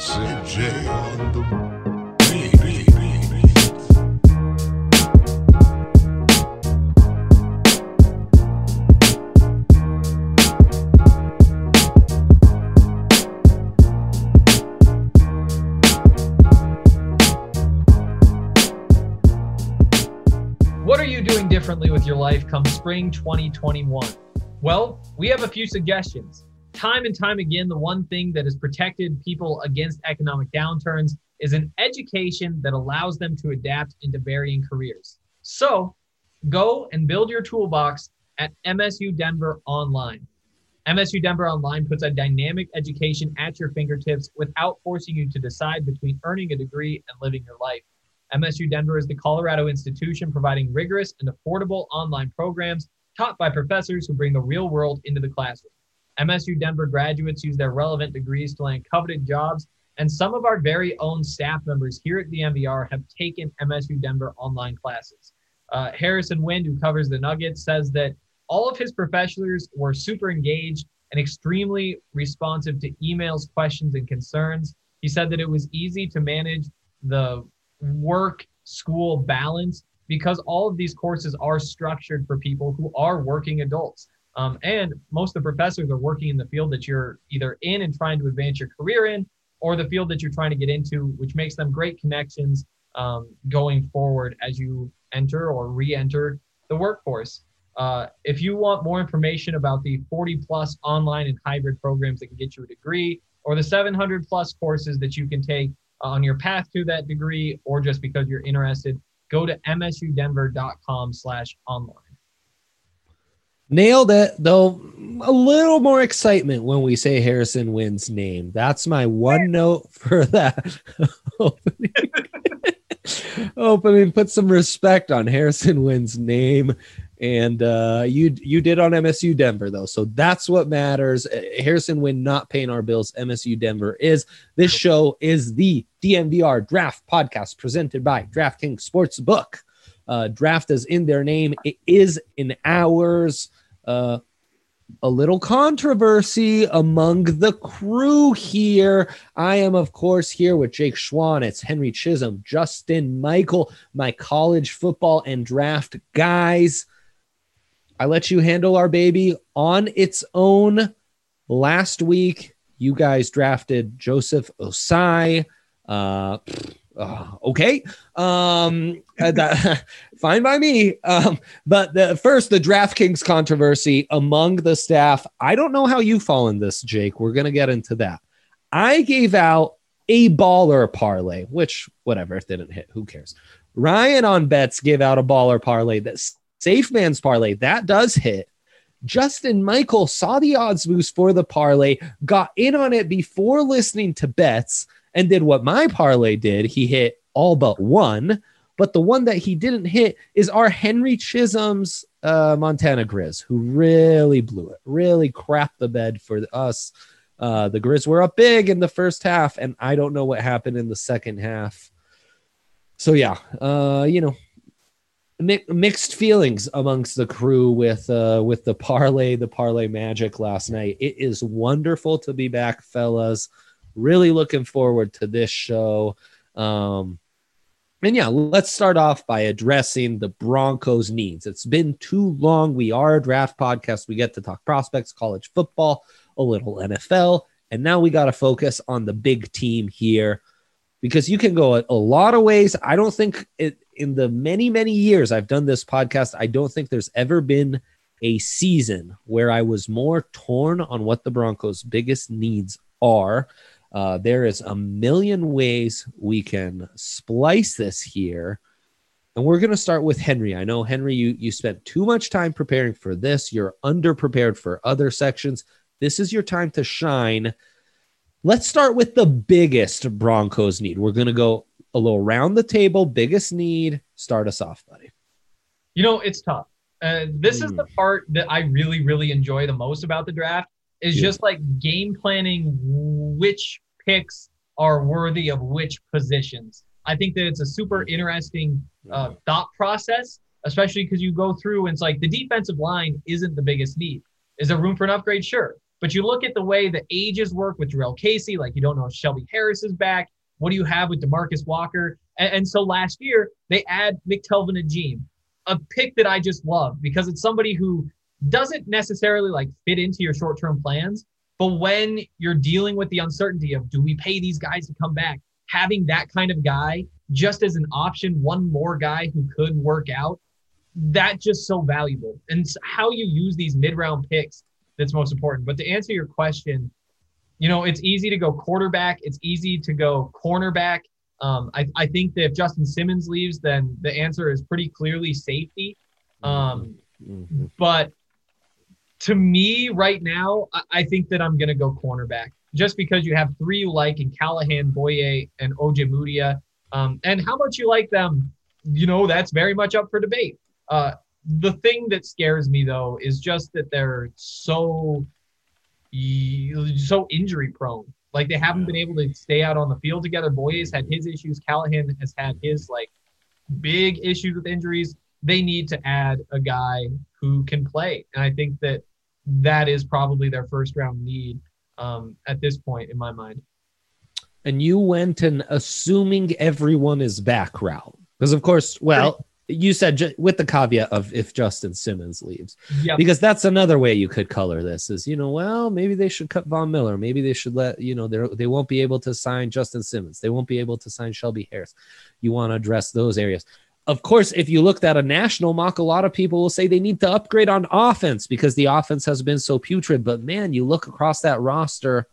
Sid J on the beat. What are you doing differently with your life come spring 2021? Well, we have a few suggestions. Time and time again, the one thing that has protected people against economic downturns is an education that allows them to adapt into varying careers. So go and build your toolbox at MSU Denver Online. MSU Denver Online puts a dynamic education at your fingertips without forcing you to decide between earning a degree and living your life. MSU Denver is the Colorado institution providing rigorous and affordable online programs taught by professors who bring the real world into the classroom. MSU Denver graduates use their relevant degrees to land coveted jobs, and some of our very own staff members here at the MVR have taken MSU Denver online classes. Harrison Wind, who covers the Nuggets, says that all of his professors were super engaged and extremely responsive to emails, questions, and concerns. He said that it was easy to manage the work-school balance because all of these courses are structured for people who are working adults. And most of the professors are working in the field that you're either in and trying to advance your career in, or the field that you're trying to get into, which makes them great connections going forward as you enter or re-enter the workforce. If you want more information about the 40-plus online and hybrid programs that can get you a degree, or the 700-plus courses that you can take on your path to that degree, or just because you're interested, go to msudenver.com/online. Nailed it, though a little more excitement when we say Harrison Wind's name. That's my one note for that opening. Put some respect on Harrison Wind's name. And you did on MSU Denver, though. So that's what matters. Harrison Wind not paying our bills. MSU Denver is. This show is the DNVR Draft Podcast presented by DraftKings Sportsbook. Draft is in their name. It is in ours. A little controversy among the crew here. I am, of course, here with Jake Schwan. It's Henry Chisholm, Justin Michael, my college football and draft guys. I let you handle our baby on its own. Last week, you guys drafted Joseph Osai. Okay. Fine by me. But the DraftKings controversy among the staff. I don't know how you fall in this, Jake. We're going to get into that. I gave out a baller parlay, which whatever, it didn't hit. Who cares? Ryan on bets gave out a baller parlay. That Safe Man's parlay, that does hit. Justin Michael saw the odds boost for the parlay, got in on it before listening to bets, and did what my parlay did. He hit all but one, but the one that he didn't hit is our Henry Chisholm's Montana Grizz, who really blew it, really crapped the bed for us. The Grizz were up big in the first half, and I don't know what happened in the second half. So yeah, mixed feelings amongst the crew with the parlay magic last night. It is wonderful to be back, fellas. Really looking forward to this show. And yeah, let's start off by addressing the Broncos' needs. It's been too long. We are a draft podcast. We get to talk prospects, college football, a little NFL, and now we got to focus on the big team here because you can go a lot of ways. I don't think in the many, many years I've done this podcast, I don't think there's ever been a season where I was more torn on what the Broncos' biggest needs are. There is a million ways we can splice this here. And we're going to start with Henry. I know, Henry, you spent too much time preparing for this. You're underprepared for other sections. This is your time to shine. Let's start with the biggest Broncos need. We're going to go a little round the table. Biggest need. Start us off, buddy. You know, it's tough. This is the part that I really, really enjoy the most about the draft is just like game planning which picks are worthy of which positions. I think that it's a super interesting thought process, especially because you go through and it's like the defensive line isn't the biggest need. Is there room for an upgrade? Sure. But you look at the way the ages work with Jarrell Casey, like you don't know if Shelby Harris is back. What do you have with DeMarcus Walker? And so last year, they add McTelvin Agim, a pick that I just love because it's somebody who doesn't necessarily like fit into your short-term plans. But when you're dealing with the uncertainty of do we pay these guys to come back, having that kind of guy just as an option, one more guy who could work out, that's just so valuable. And how you use these mid-round picks, that's most important. But to answer your question, you know, it's easy to go quarterback. It's easy to go cornerback. I think that if Justin Simmons leaves, then the answer is pretty clearly safety. But to me right now, I think that I'm going to go cornerback just because you have three you like in Callahan, Boye, and Ojemudia. And how much you like them, you know, that's very much up for debate. The thing that scares me, though, is just that they're so injury prone. Like they haven't been able to stay out on the field together. Boye's had his issues. Callahan has had his like big issues with injuries. They need to add a guy who can play. And I think that that is probably their first round need at this point in my mind. And you went an assuming everyone is back route. Because of course, well, you said with the caveat of if Justin Simmons leaves, because that's another way you could color this is, you know, well, maybe they should cut Von Miller. Maybe they should let, you know, they won't be able to sign Justin Simmons. They won't be able to sign Shelby Harris. You want to address those areas. Of course, if you looked at a national mock, a lot of people will say they need to upgrade on offense because the offense has been so putrid. But man, you look across that roster,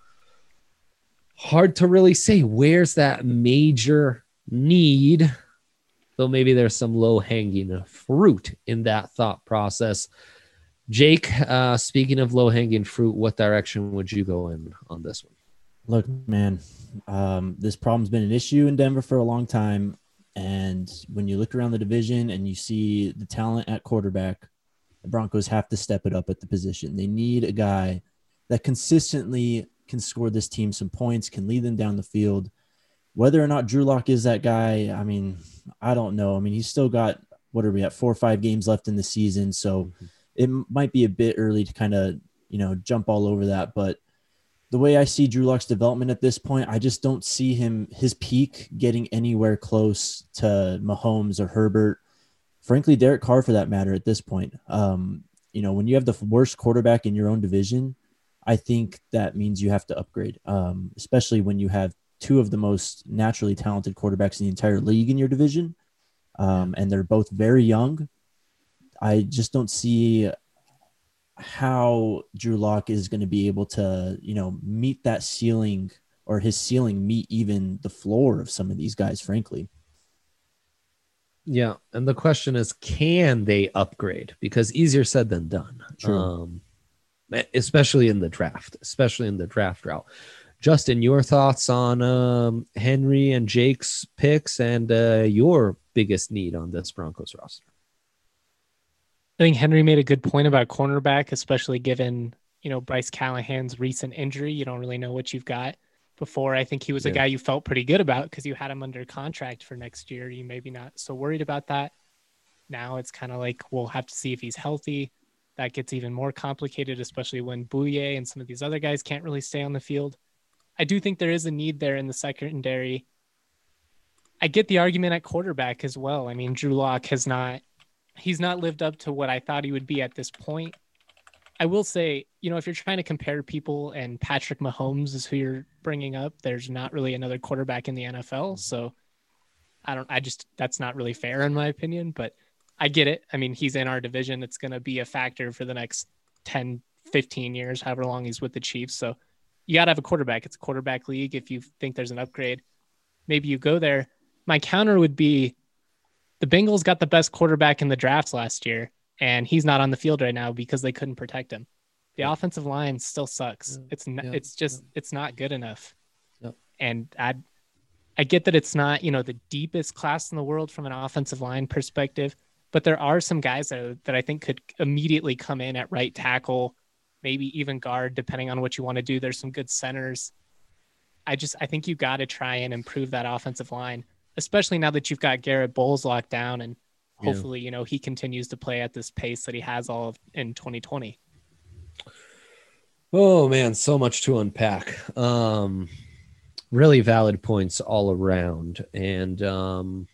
hard to really say where's that major need. Though maybe there's some low-hanging fruit in that thought process. Jake, speaking of low-hanging fruit, what direction would you go in on this one? Look, man, this problem's been an issue in Denver for a long time. And when you look around the division and you see the talent at quarterback, the Broncos have to step it up at the position. They need a guy that consistently can score this team some points, can lead them down the field. Whether or not Drew Lock is that guy, I mean, I don't know. I mean, he's still got, what are we at, 4 or 5 games left in the season. So it might be a bit early to kind of, you know, jump all over that. But the way I see Drew Lock's development at this point, I just don't see his peak getting anywhere close to Mahomes or Herbert. Frankly, Derek Carr for that matter at this point. You know, when you have the worst quarterback in your own division, I think that means you have to upgrade, especially when you have 2 of the most naturally talented quarterbacks in the entire league in your division. And they're both very young. I just don't see how Drew Lock is going to be able to, you know, meet that ceiling or his ceiling meet even the floor of some of these guys, frankly. Yeah. And the question is, can they upgrade? Because easier said than done. True. Especially in the draft route. Justin, your thoughts on Henry and Jake's picks and your biggest need on this Broncos roster? I think Henry made a good point about cornerback, especially given, you know, Bryce Callahan's recent injury. You don't really know what you've got. Before, I think he was a guy you felt pretty good about because you had him under contract for next year. You maybe not so worried about that. Now it's kind of like we'll have to see if he's healthy. That gets even more complicated, especially when Bouye and some of these other guys can't really stay on the field. I do think there is a need there in the secondary. I get the argument at quarterback as well. I mean, Drew Lock he's not lived up to what I thought he would be at this point. I will say, you know, if you're trying to compare people and Patrick Mahomes is who you're bringing up, there's not really another quarterback in the NFL. So that's not really fair in my opinion, but I get it. I mean, he's in our division. It's going to be a factor for the next 10, 15 years, however long he's with the Chiefs. So you got to have a quarterback. It's a quarterback league. If you think there's an upgrade, maybe you go there. My counter would be the Bengals got the best quarterback in the drafts last year, and he's not on the field right now because they couldn't protect him. The offensive line still sucks. It's not good enough. Yep. And I get that it's not, you know, the deepest class in the world from an offensive line perspective, but there are some guys that I think could immediately come in at right tackle, maybe even guard, depending on what you want to do. There's some good centers. I think you got to try and improve that offensive line, especially now that you've got Garrett Bowles locked down and hopefully, you know, he continues to play at this pace that he has all of in 2020. Oh man, so much to unpack. Really valid points all around. And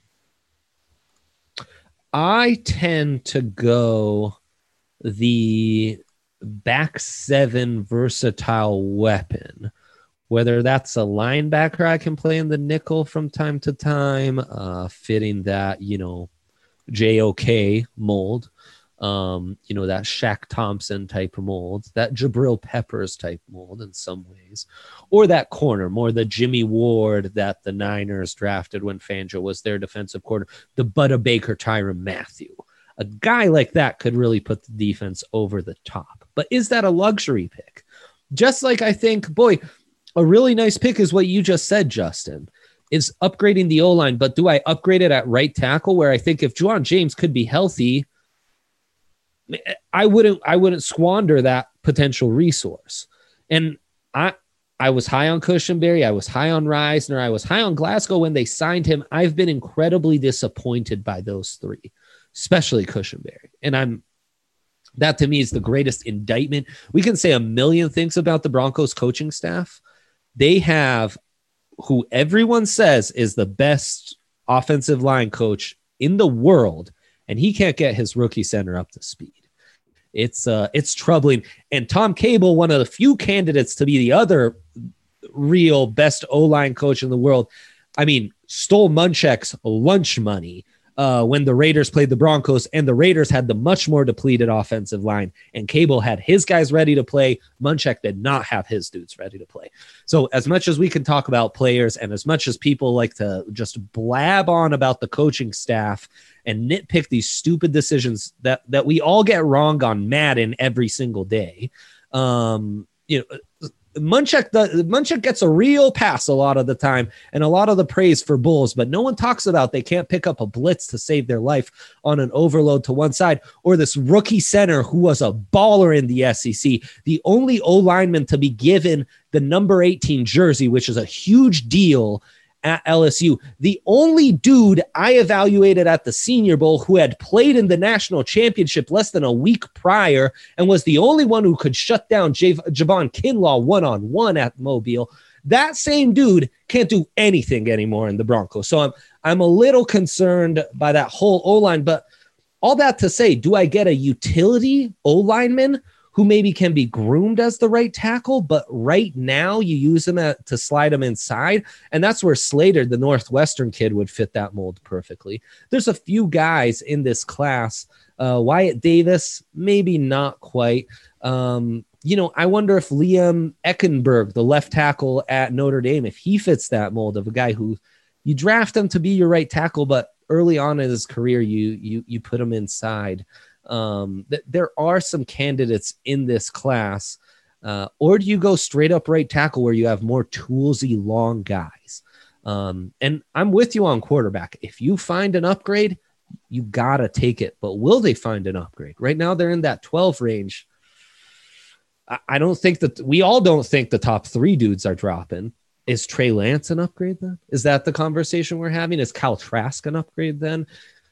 I tend to go the back seven versatile weapon, whether that's a linebacker I can play in the nickel from time to time, fitting that, JOK mold, that Shaq Thompson type of mold, that Jabril Peppers type mold in some ways, or that corner, more the Jimmy Ward that the Niners drafted when Fangio was their defensive corner, the Budda Baker, Tyrann Mathieu. A guy like that could really put the defense over the top. But is that a luxury pick? Just like I think, a really nice pick is what you just said, Justin, is upgrading the O-line. But do I upgrade it at right tackle, where I think if Ja'Wuan James could be healthy, I wouldn't squander that potential resource. And I was high on Cushenberry, I was high on Reisner, I was high on Glasgow when they signed him. I've been incredibly disappointed by those three, especially Cushenberry. And that to me is the greatest indictment. We can say a million things about the Broncos coaching staff. They have who everyone says is the best offensive line coach in the world, and he can't get his rookie center up to speed. It's troubling. And Tom Cable, one of the few candidates to be the other real best O-line coach in the world, stole Munchak's lunch money when the Raiders played the Broncos, and the Raiders had the much more depleted offensive line, and Cable had his guys ready to play. Munchak did not have his dudes ready to play. So as much as we can talk about players, and as much as people like to just blab on about the coaching staff and nitpick these stupid decisions that we all get wrong on Madden every single day, Munchak gets a real pass a lot of the time and a lot of the praise for Bulls, but no one talks about they can't pick up a blitz to save their life on an overload to one side, or this rookie center who was a baller in the SEC, the only O-lineman to be given the number 18 jersey, which is a huge deal at LSU. The only dude I evaluated at the Senior Bowl who had played in the national championship less than a week prior and was the only one who could shut down Javon Kinlaw one-on-one at Mobile. That same dude can't do anything anymore in the Broncos. So I'm a little concerned by that whole O-line, but all that to say, do I get a utility O-lineman who maybe can be groomed as the right tackle, but right now you use him to slide him inside? And that's where Slater, the Northwestern kid, would fit that mold perfectly. There's a few guys in this class. Wyatt Davis, maybe not quite. I wonder if Liam Eckenberg, the left tackle at Notre Dame, if he fits that mold of a guy who you draft him to be your right tackle, but early on in his career, you put him inside. There are some candidates in this class, or do you go straight up right tackle where you have more toolsy long guys? And I'm with you on quarterback. If you find an upgrade, you gotta take it. But will they find an upgrade? Right now they're in that 12 range. I don't think that we all don't think the top three dudes are dropping. Is Trey Lance an upgrade then? Is that the conversation we're having? Is Kyle Trask an upgrade then?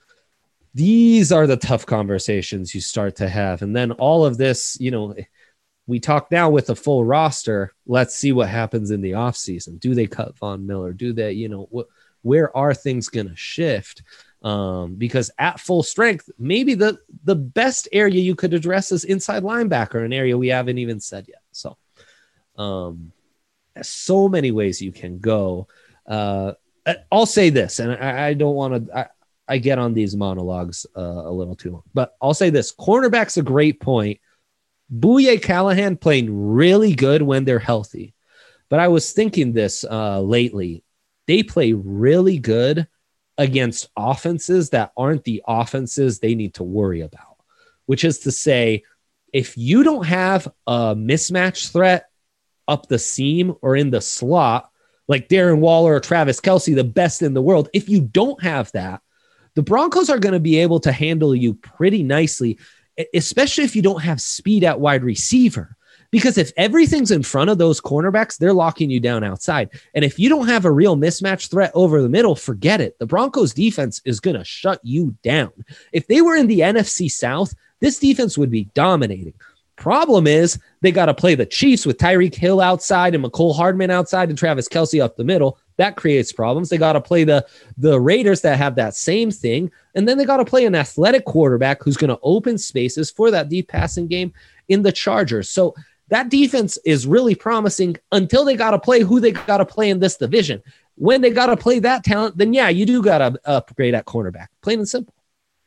These are the tough conversations you start to have. And then all of this, we talk now with a full roster. Let's see what happens in the offseason. Do they cut Von Miller? Do they, where are things going to shift? Because at full strength, maybe the best area you could address is inside linebacker, an area we haven't even said yet. So there's so many ways you can go. I'll say this, and I don't want to, I get on these monologues a little too long, but I'll say this: cornerback's a great point. Bouye Callahan playing really good when they're healthy, but I was thinking this lately. They play really good against offenses that aren't the offenses they need to worry about, which is to say, if you don't have a mismatch threat up the seam or in the slot, like Darren Waller or Travis Kelce, the best in the world, if you don't have that, the Broncos are going to be able to handle you pretty nicely, especially if you don't have speed at wide receiver. Because if everything's in front of those cornerbacks, they're locking you down outside. And if you don't have a real mismatch threat over the middle, forget it. The Broncos defense is going to shut you down. If they were in the NFC South, this defense would be dominating. Problem is they got to play the Chiefs with Tyreek Hill outside and McCole Hardman outside and Travis Kelce up the middle. That creates problems. They got to play the Raiders that have that same thing. And then they got to play an athletic quarterback who's going to open spaces for that deep passing game in the Chargers. So that defense is really promising until they got to play who they got to play in this division. When they got to play that talent, then yeah, you do got to upgrade at cornerback. Plain and simple.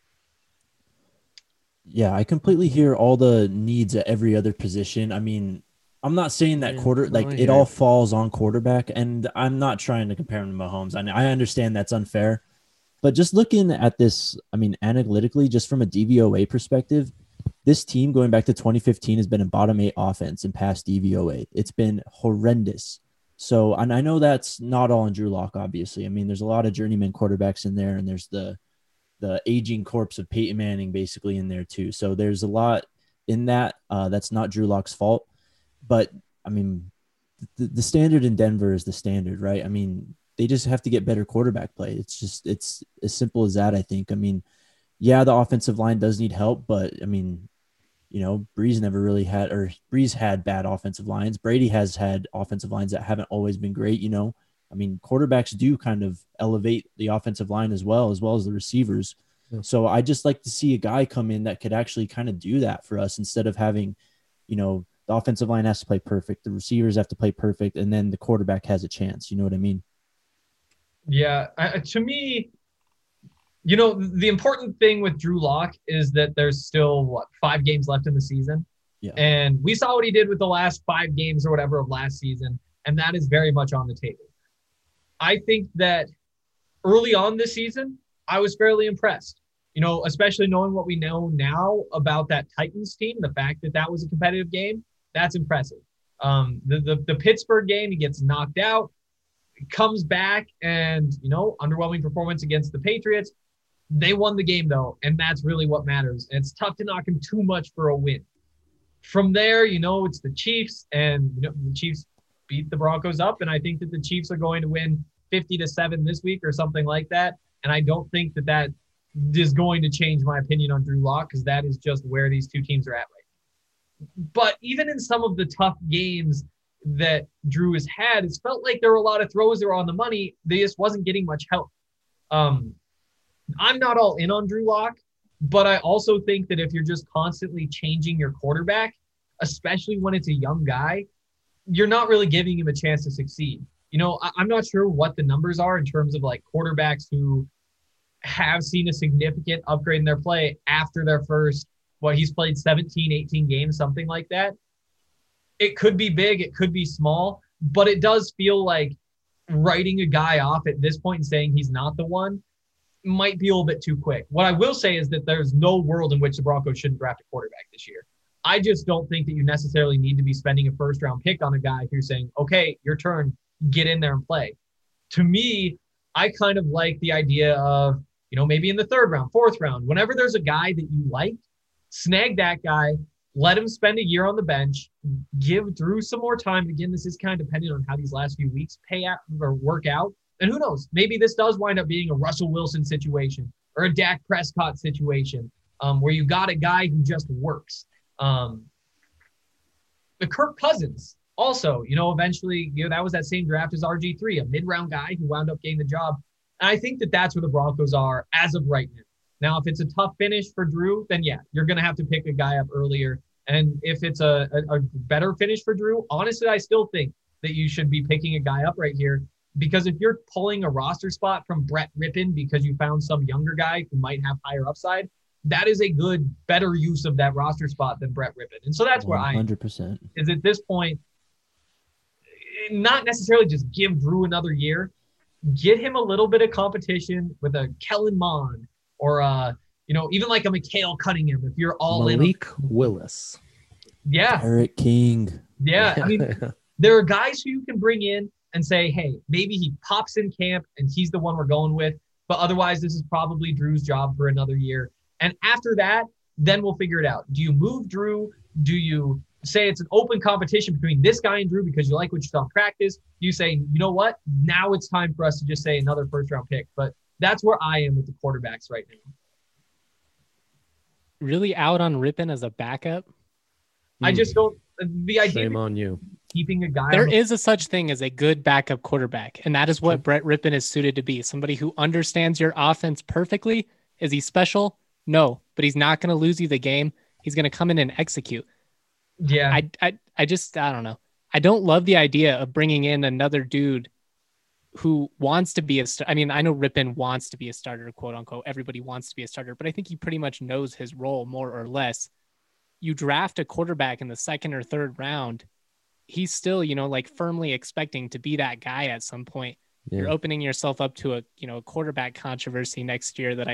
Yeah, I completely hear all the needs at every other position. I mean, I'm not saying that it all falls on quarterback, and I'm not trying to compare him to Mahomes. I understand that's unfair, but just looking at this, I mean, analytically, just from a DVOA perspective, this team going back to 2015 has been a bottom 8 offense in past DVOA. It's been horrendous. So, and I know that's not all on Drew Lock, obviously. I mean, there's a lot of journeyman quarterbacks in there, and there's the aging corpse of Peyton Manning basically in there too. So there's a lot in that. That's not Drew Lock's fault, but I mean, the standard in Denver is the standard, right? I mean, they just have to get better quarterback play. It's as simple as that. I think, I mean, yeah, the offensive line does need help, but I mean, you know, Breeze had bad offensive lines. Brady has had offensive lines that haven't always been great, you know. I mean, quarterbacks do kind of elevate the offensive line as well as the receivers. Yeah. So I just like to see a guy come in that could actually kind of do that for us instead of having, you know, the offensive line has to play perfect, the receivers have to play perfect, and then the quarterback has a chance. You know what I mean? Yeah. To me, you know, the important thing with Drew Lock is that there's still, 5 games left in the season? Yeah. And we saw what he did with the last 5 games or whatever of last season, and that is very much on the table. I think that early on this season, I was fairly impressed, you know, especially knowing what we know now about that Titans team, the fact that that was a competitive game, that's impressive. The Pittsburgh game, he gets knocked out, comes back and, you know, underwhelming performance against the Patriots. They won the game though, and that's really what matters. And it's tough to knock him too much for a win. From there, you know, it's the Chiefs, and you know, the Chiefs beat the Broncos up, and I think that the Chiefs are going to win 50-7 this week or something like that. And I don't think that is going to change my opinion on Drew Lock, because that is just where these two teams are at right now. But even in some of the tough games that Drew has had, it's felt like there were a lot of throws that were on the money. They just wasn't getting much help. I'm not all in on Drew Lock, but I also think that if you're just constantly changing your quarterback, especially when it's a young guy, you're not really giving him a chance to succeed. You know, I'm not sure what the numbers are in terms of like quarterbacks who have seen a significant upgrade in their play after their first, he's played 17, 18 games, something like that. It could be big, it could be small, but it does feel like writing a guy off at this point and saying he's not the one might be a little bit too quick. What I will say is that there's no world in which the Broncos shouldn't draft a quarterback this year. I just don't think that you necessarily need to be spending a first-round pick on a guy who's saying, okay, your turn, get in there and play. To me, I kind of like the idea of, you know, maybe in the 3rd round, 4th round, whenever there's a guy that you like, snag that guy, let him spend a year on the bench, give Drew some more time. Again, this is kind of dependent on how these last few weeks pay out or work out. And who knows, maybe this does wind up being a Russell Wilson situation or a Dak Prescott situation where you got a guy who just works. The Kirk Cousins, also, you know, eventually, you know, that was that same draft as RG3, a mid-round guy who wound up getting the job. And I think that that's where the Broncos are as of right now. Now, if it's a tough finish for Drew, then yeah, you're going to have to pick a guy up earlier. And if it's a better finish for Drew, honestly, I still think that you should be picking a guy up right here. Because if you're pulling a roster spot from Brett Rippon because you found some younger guy who might have higher upside, that is a good, better use of that roster spot than Brett Rippon. And so that's where 100% is at this point, not necessarily just give Drew another year, get him a little bit of competition with a Kellen Mond or you know, even like a Mikhail Cunningham if you're all Malik Willis. Yeah. Eric King. Yeah. I mean, there are guys who you can bring in and say, hey, maybe he pops in camp and he's the one we're going with. But otherwise, this is probably Drew's job for another year. And after that, then we'll figure it out. Do you move Drew? Do you say it's an open competition between this guy and Drew because you like what you saw in practice? You say, you know what? Now it's time for us to just say another first-round pick. But that's where I am with the quarterbacks right now. Really out on Rippon as a backup? I just don't. The idea Shame of on you. keeping a guy. There is a such thing as a good backup quarterback, and that is what Brett Rippon is suited to be. Somebody who understands your offense perfectly. Is he special? No, but he's not going to lose you the game. He's going to come in and execute. Yeah. I don't know. I don't love the idea of bringing in another dude who wants to be I mean, I know Rippon wants to be a starter, quote unquote. Everybody wants to be a starter, but I think he pretty much knows his role more or less. You draft a quarterback in the second or third round. He's still, like firmly expecting to be that guy at some point. Yeah. You're opening yourself up to a quarterback controversy next year that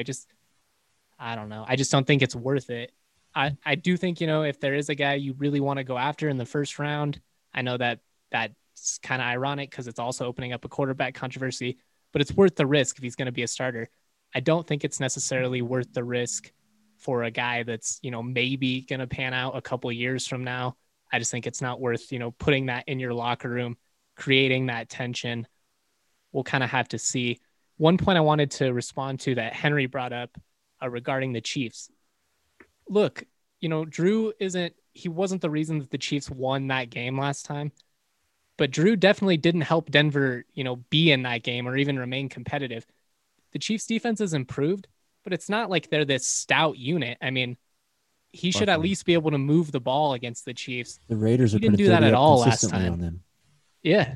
I don't know. I just don't think it's worth it. I do think, if there is a guy you really want to go after in the first round, I know that's kind of ironic because it's also opening up a quarterback controversy, but it's worth the risk if he's going to be a starter. I don't think it's necessarily worth the risk for a guy that's, maybe going to pan out a couple of years from now. I just think it's not worth, putting that in your locker room, creating that tension. We'll kind of have to see. One point I wanted to respond to that Henry brought up regarding the Chiefs. Look, Drew wasn't the reason that the Chiefs won that game last time, but Drew definitely didn't help Denver, be in that game or even remain competitive. The Chiefs defense has improved, but it's not like they're this stout unit. I mean, he should at least be able to move the ball against the Chiefs. The Raiders didn't do that at all last time. On them. Yeah.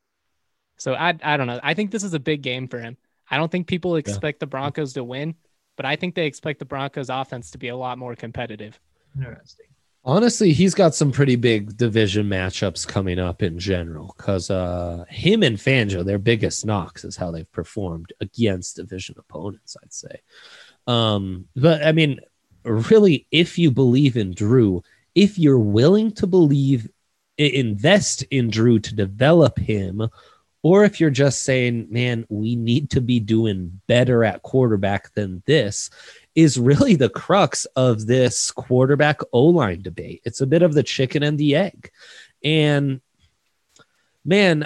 So I don't know. I think this is a big game for him. I don't think people expect the Broncos to win, but I think they expect the Broncos offense to be a lot more competitive. Interesting. Honestly, he's got some pretty big division matchups coming up in general because him and Fangio, their biggest knocks is how they've performed against division opponents, I'd say. But I mean, really, if you believe in Drew, if you're willing to invest in Drew to develop him, or if you're just saying, man, we need to be doing better at quarterback than this, is really the crux of this quarterback O-line debate. It's a bit of the chicken and the egg. And man,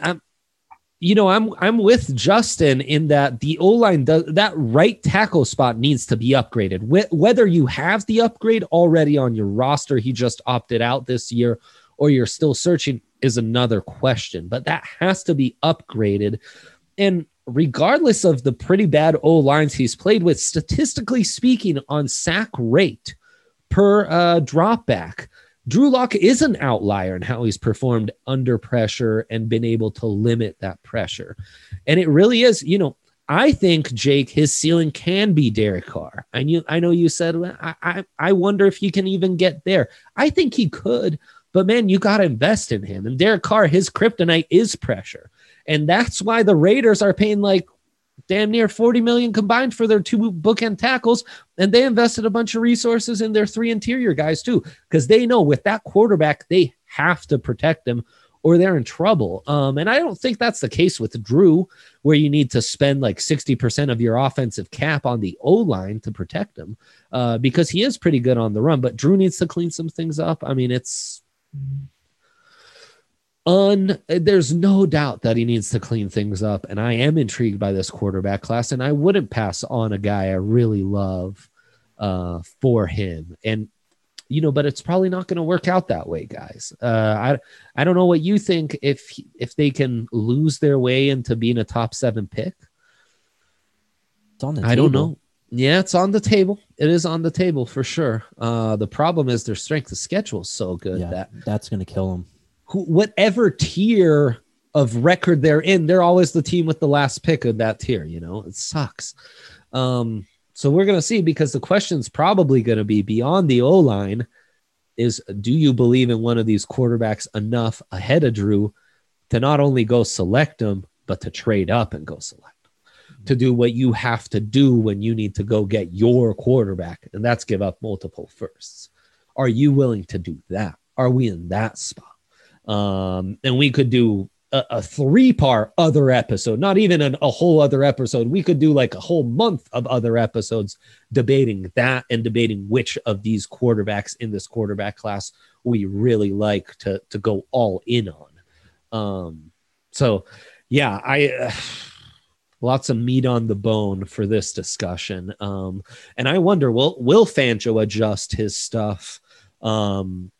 I'm with Justin in that the O-line that right tackle spot needs to be upgraded. Whether you have the upgrade already on your roster, he just opted out this year, or you're still searching, is another question, but that has to be upgraded. And regardless of the pretty bad O-lines he's played with, statistically speaking, on sack rate per drop back, Drew Lock is an outlier in how he's performed under pressure and been able to limit that pressure. And it really is, I think, Jake, his ceiling can be Derek Carr. I know you said, I wonder if you can even get there. I think he could, but man, you got to invest in him. And Derek Carr, his kryptonite is pressure. And that's why the Raiders are paying like damn near $40 million combined for their 2 bookend tackles. And they invested a bunch of resources in their 3 interior guys too, because they know with that quarterback, they have to protect him or they're in trouble. And I don't think that's the case with Drew, where you need to spend like 60% of your offensive cap on the O-line to protect him, because he is pretty good on the run, but Drew needs to clean some things up. I mean, there's no doubt that he needs to clean things up. And I am intrigued by this quarterback class, and I wouldn't pass on a guy I really love for him. And, but it's probably not going to work out that way, guys. I don't know what you think if they can lose their way into being a top 7 pick. It's on the table. I don't know. Yeah, it's on the table. It is on the table for sure. The problem is their strength of schedule is so good that's going to kill them. Whatever tier of record they're in, they're always the team with the last pick of that tier. It sucks. So we're going to see, because the question's probably going to be beyond the O-line is, do you believe in one of these quarterbacks enough ahead of Drew to not only go select them, but to trade up and go select them, to do what you have to do when you need to go get your quarterback, and that's give up multiple firsts. Are you willing to do that? Are we in that spot? And we could do a 3-part other episode, not even a whole other episode. We could do like a whole month of other episodes debating that and debating which of these quarterbacks in this quarterback class we really like to go all in on. So yeah, lots of meat on the bone for this discussion. And I wonder, will Fangio adjust his stuff?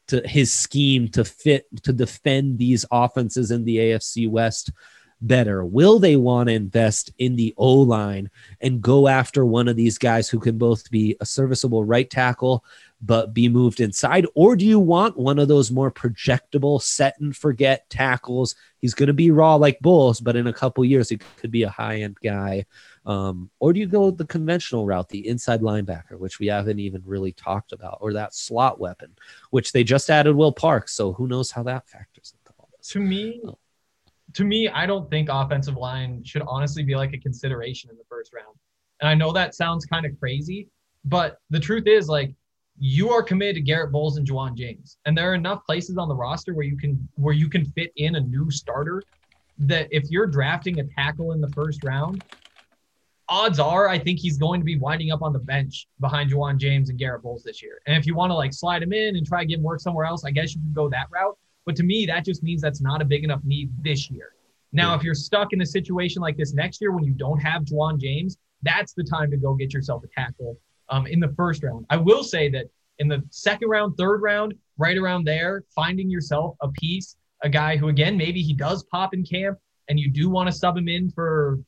his scheme to defend these offenses in the AFC West better? Will they want to invest in the O-line and go after one of these guys who can both be a serviceable right tackle but be moved inside? Or do you want one of those more projectable set and forget tackles? He's going to be raw like Bulls, but in a couple years, he could be a high-end guy. Or do you go the conventional route, the inside linebacker, which we haven't even really talked about, or that slot weapon, which they just added Will Parks. So who knows how that factors into all this. To me, I don't think offensive line should honestly be like a consideration in the first round. And I know that sounds kind of crazy, but the truth is, like, you are committed to Garrett Bowles and Juwan James. And there are enough places on the roster where you can fit in a new starter that if you're drafting a tackle in the first round, odds are I think he's going to be winding up on the bench behind Juwan James and Garrett Bowles this year. And if you want to like slide him in and try to get him work somewhere else, I guess you can go that route. But to me, that just means that's not a big enough need this year. Now, if you're stuck in a situation like this next year when you don't have Juwan James, that's the time to go get yourself a tackle in the first round. I will say that in the second round, third round, right around there, finding yourself a piece, a guy who, again, maybe he does pop in camp and you do want to sub him in for,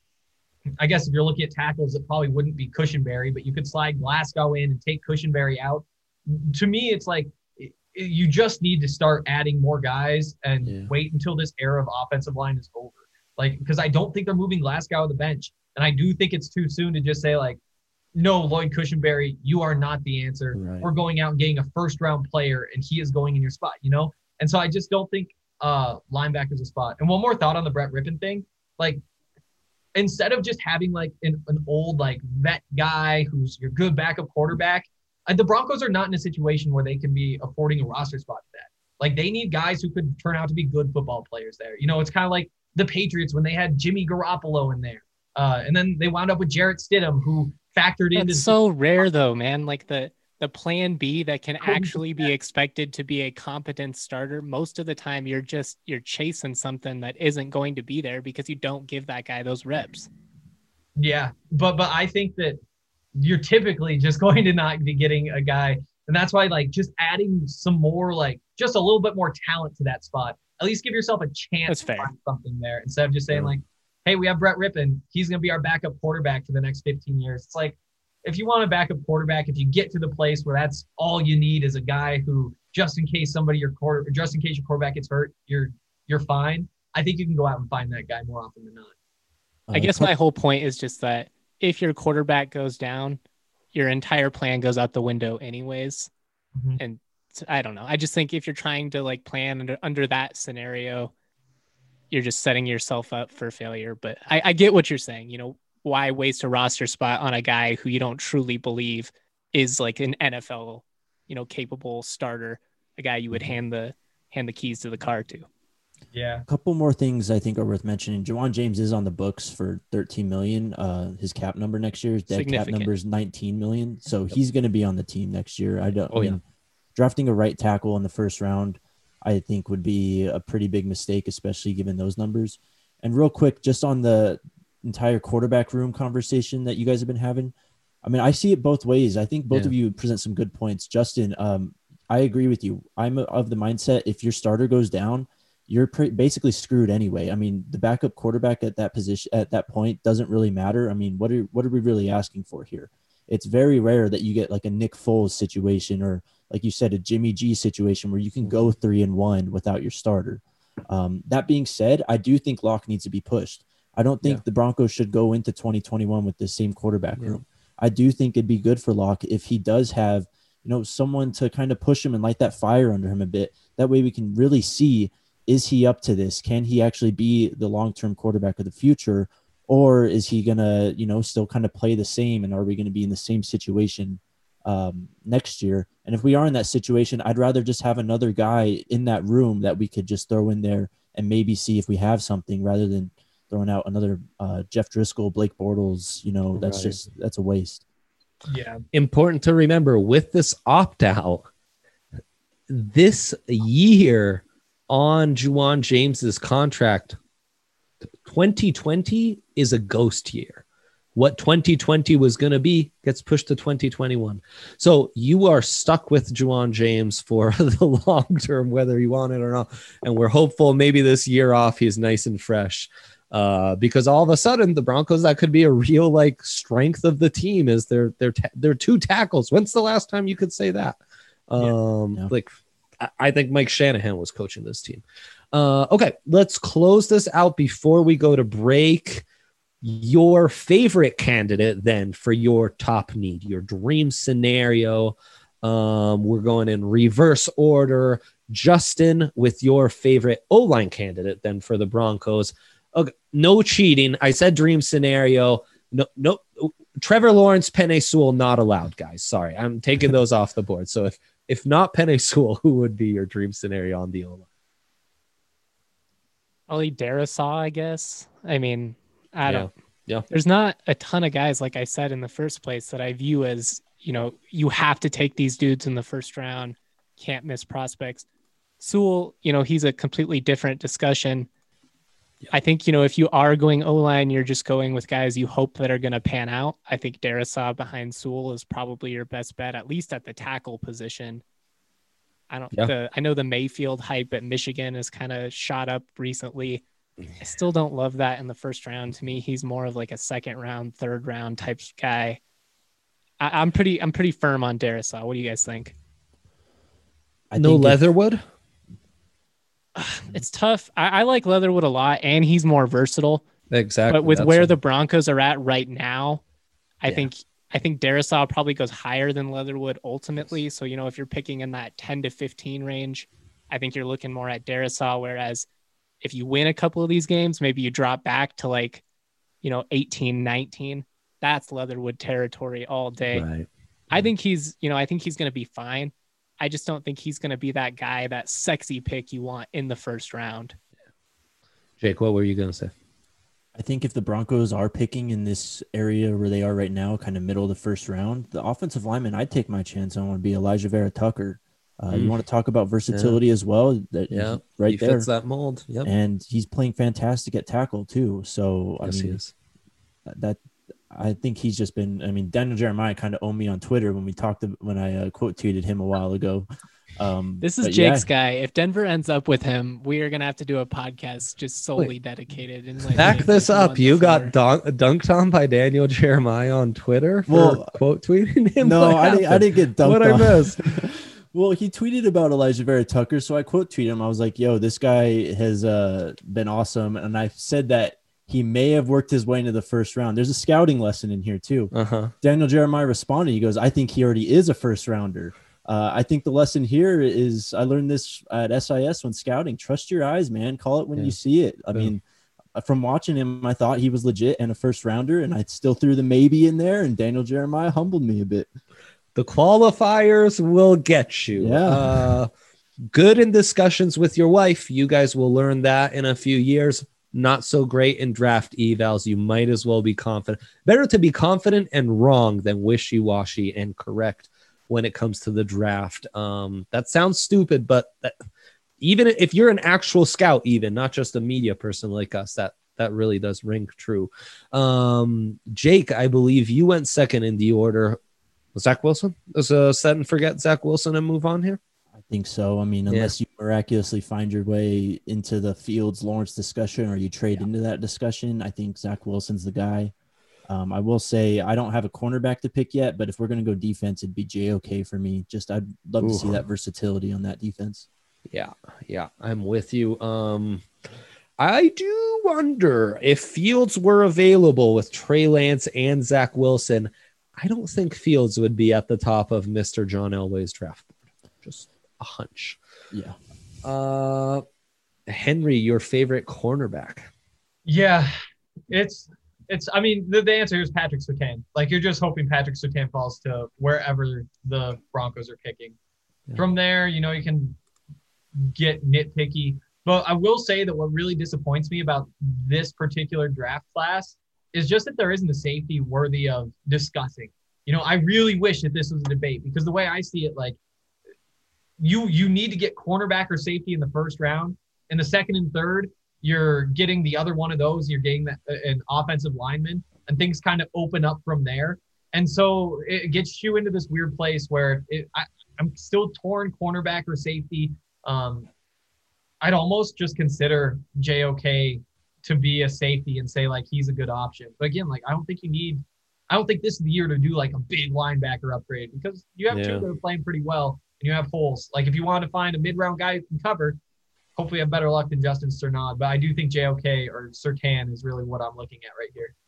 I guess if you're looking at tackles, it probably wouldn't be Cushenberry, but you could slide Glasgow in and take Cushenberry out. To me, it's like you just need to start adding more guys and wait until this era of offensive line is over. Like, because I don't think they're moving Glasgow to the bench. And I do think it's too soon to just say, like, no, Lloyd Cushenberry, you are not the answer. Right. We're going out and getting a first-round player, and he is going in your spot, you know? And so I just don't think linebacker's a spot. And one more thought on the Brett Rypien thing. Like, instead of just having, like, an old, like, vet guy who's your good backup quarterback, the Broncos are not in a situation where they can be affording a roster spot to that. Like, they need guys who could turn out to be good football players there. You know, it's kind of like the Patriots when they had Jimmy Garoppolo in there. And then they wound up with Jarrett Stidham, who factored in. It's so rare, though, man. Like the plan B that can actually be expected to be a competent starter. Most of the time, you're chasing something that isn't going to be there because you don't give that guy those reps. Yeah, but I think that you're typically just going to not be getting a guy. And that's why, like, just adding some more, like, just a little bit more talent to that spot. At least give yourself a chance to find something there instead of just saying, like, hey, we have Brett Rypien. He's going to be our backup quarterback for the next 15 years. It's like, if you want a backup quarterback, if you get to the place where that's all you need is a guy who, just in case your quarterback gets hurt, you're fine. I think you can go out and find that guy more often than not. I guess my whole point is just that if your quarterback goes down, your entire plan goes out the window anyways. Mm-hmm. And I don't know. I just think if you're trying to like plan under that scenario, you're just setting yourself up for failure. But I get what you're saying. You know, why waste a roster spot on a guy who you don't truly believe is like an NFL, you know, capable starter, a guy you would hand the keys to the car to. Yeah. A couple more things I think are worth mentioning. Juwan James is on the books for $13 million. His cap number next year, his dead cap number is $19 million. So he's going to be on the team next year. I mean, drafting a right tackle in the first round, I think would be a pretty big mistake, especially given those numbers. And real quick, just on the entire quarterback room conversation that you guys have been having, I mean, I see it both ways. I think both of you present some good points. Justin, I agree with you. I'm of the mindset if your starter goes down, you're basically screwed anyway. I mean, the backup quarterback at that position at that point doesn't really matter. I mean, what are we really asking for here? It's very rare that you get like a Nick Foles situation or, like you said, a Jimmy G situation where you can go 3-1 without your starter. That being said, I do think Locke needs to be pushed. I don't think the Broncos should go into 2021 with the same quarterback room. I do think it'd be good for Locke if he does have, you know, someone to kind of push him and light that fire under him a bit. That way we can really see, is he up to this? Can he actually be the long-term quarterback of the future? Or is he going to, you know, still kind of play the same? And are we going to be in the same situation next year? And if we are in that situation, I'd rather just have another guy in that room that we could just throw in there and maybe see if we have something rather than throwing out another Jeff Driscoll, Blake Bortles. You know, that's a waste. Yeah. Important to remember with this opt-out, this year on Juwan James's contract, 2020 is a ghost year. what 2020 was going to be gets pushed to 2021. So you are stuck with Juwan James for the long term, whether you want it or not. And we're hopeful maybe this year off, he's nice and fresh. Because all of a sudden the Broncos, that could be a real like strength of the team is their two tackles. When's the last time you could say that? Like I think Mike Shanahan was coaching this team. Okay, let's close this out before we go to break. Your favorite candidate then for your top need, your dream scenario. We're going in reverse order. Justin, with your favorite O-line candidate then for the Broncos. Okay, no cheating. I said dream scenario. No. Trevor Lawrence, Penei Sewell, not allowed, guys. Sorry, I'm taking those off the board. So if not Penei Sewell, who would be your dream scenario on the O-line? Probably Darisaw, I guess. I mean, I don't. Yeah. There's not a ton of guys, like I said in the first place, that I view as, you have to take these dudes in the first round. Can't miss prospects. Sewell, he's a completely different discussion. Yeah. I think, if you are going O-line, you're just going with guys you hope that are going to pan out. I think Darisaw behind Sewell is probably your best bet, at least at the tackle position. I know the Mayfield hype at Michigan has kind of shot up recently. I still don't love that in the first round. To me, he's more of like a second round, third round type guy. I'm pretty firm on Darisaw. What do you guys think? No Leatherwood? It's tough. I like Leatherwood a lot, and he's more versatile. Exactly. But with where the Broncos are at right now, I think Darisaw probably goes higher than Leatherwood ultimately. So, if you're picking in that 10 to 15 range, I think you're looking more at Darisaw. Whereas if you win a couple of these games, maybe you drop back to 18, 19. That's Leatherwood territory all day. Right. I think he's going to be fine. I just don't think he's going to be that guy, that sexy pick you want in the first round. Jake, what were you going to say? I think if the Broncos are picking in this area where they are right now, kind of middle of the first round, the offensive lineman I'd take my chance on would be Elijah Vera Tucker. You want to talk about versatility as well? He fits that mold. Yep. And he's playing fantastic at tackle too. So he is. I think he's just been. I mean, Daniel Jeremiah kind of owned me on Twitter when I quote tweeted him a while ago. This is Jake's guy. If Denver ends up with him, we are gonna have to do a podcast just solely dedicated. And back this up. You got dunked on by Daniel Jeremiah on Twitter for quote tweeting him. No, I didn't get dunked on. What I missed? Well, he tweeted about Elijah Vera Tucker, so I quote tweeted him. I was like, "Yo, this guy has been awesome," and I said that he may have worked his way into the first round. There's a scouting lesson in here too. Daniel Jeremiah responded. He goes, "I think he already is a first rounder." I think the lesson here is I learned this at SIS when scouting. Trust your eyes, man. Call it when you see it. I mean, from watching him, I thought he was legit and a first rounder, and I still threw the maybe in there. And Daniel Jeremiah humbled me a bit. The qualifiers will get you. Yeah. Good in discussions with your wife. You guys will learn that in a few years. Not so great in draft evals. You might as well be confident. Better to be confident and wrong than wishy-washy and correct when it comes to the draft. That sounds stupid, but even if you're an actual scout, even not just a media person like us, that really does ring true. Jake, I believe you went second in the order. Zach Wilson? Is a set and forget Zach Wilson and move on here? I think so. I mean, unless you miraculously find your way into the Fields Lawrence discussion or you trade into that discussion, I think Zach Wilson's the guy. I will say I don't have a cornerback to pick yet, but if we're going to go defense, it'd be JOK for me. I'd love to see that versatility on that defense. Yeah, I'm with you. I do wonder if Fields were available with Trey Lance and Zach Wilson. I don't think Fields would be at the top of Mr. John Elway's draft board. Just a hunch. Yeah. Henry, your favorite cornerback? Yeah, I mean, the answer is Patrick Surtain. Like, you're just hoping Patrick Surtain falls to wherever the Broncos are picking. Yeah. From there, you can get nitpicky. But I will say that what really disappoints me about this particular draft class is just that there isn't a safety worthy of discussing. I really wish that this was a debate, because the way I see it, like, you need to get cornerback or safety in the first round. In the second and third, you're getting the other one of those. You're getting an offensive lineman. and things kind of open up from there. And so it gets you into this weird place where I'm still torn cornerback or safety. I'd almost just consider JOK to be a safety and say like he's a good option. But again, like I don't think this is the year to do like a big linebacker upgrade because you have two that are playing pretty well and you have holes. Like if you want to find a mid-round guy who can cover, hopefully have better luck than Justin Cernod. But I do think JOK or Surtain is really what I'm looking at right here.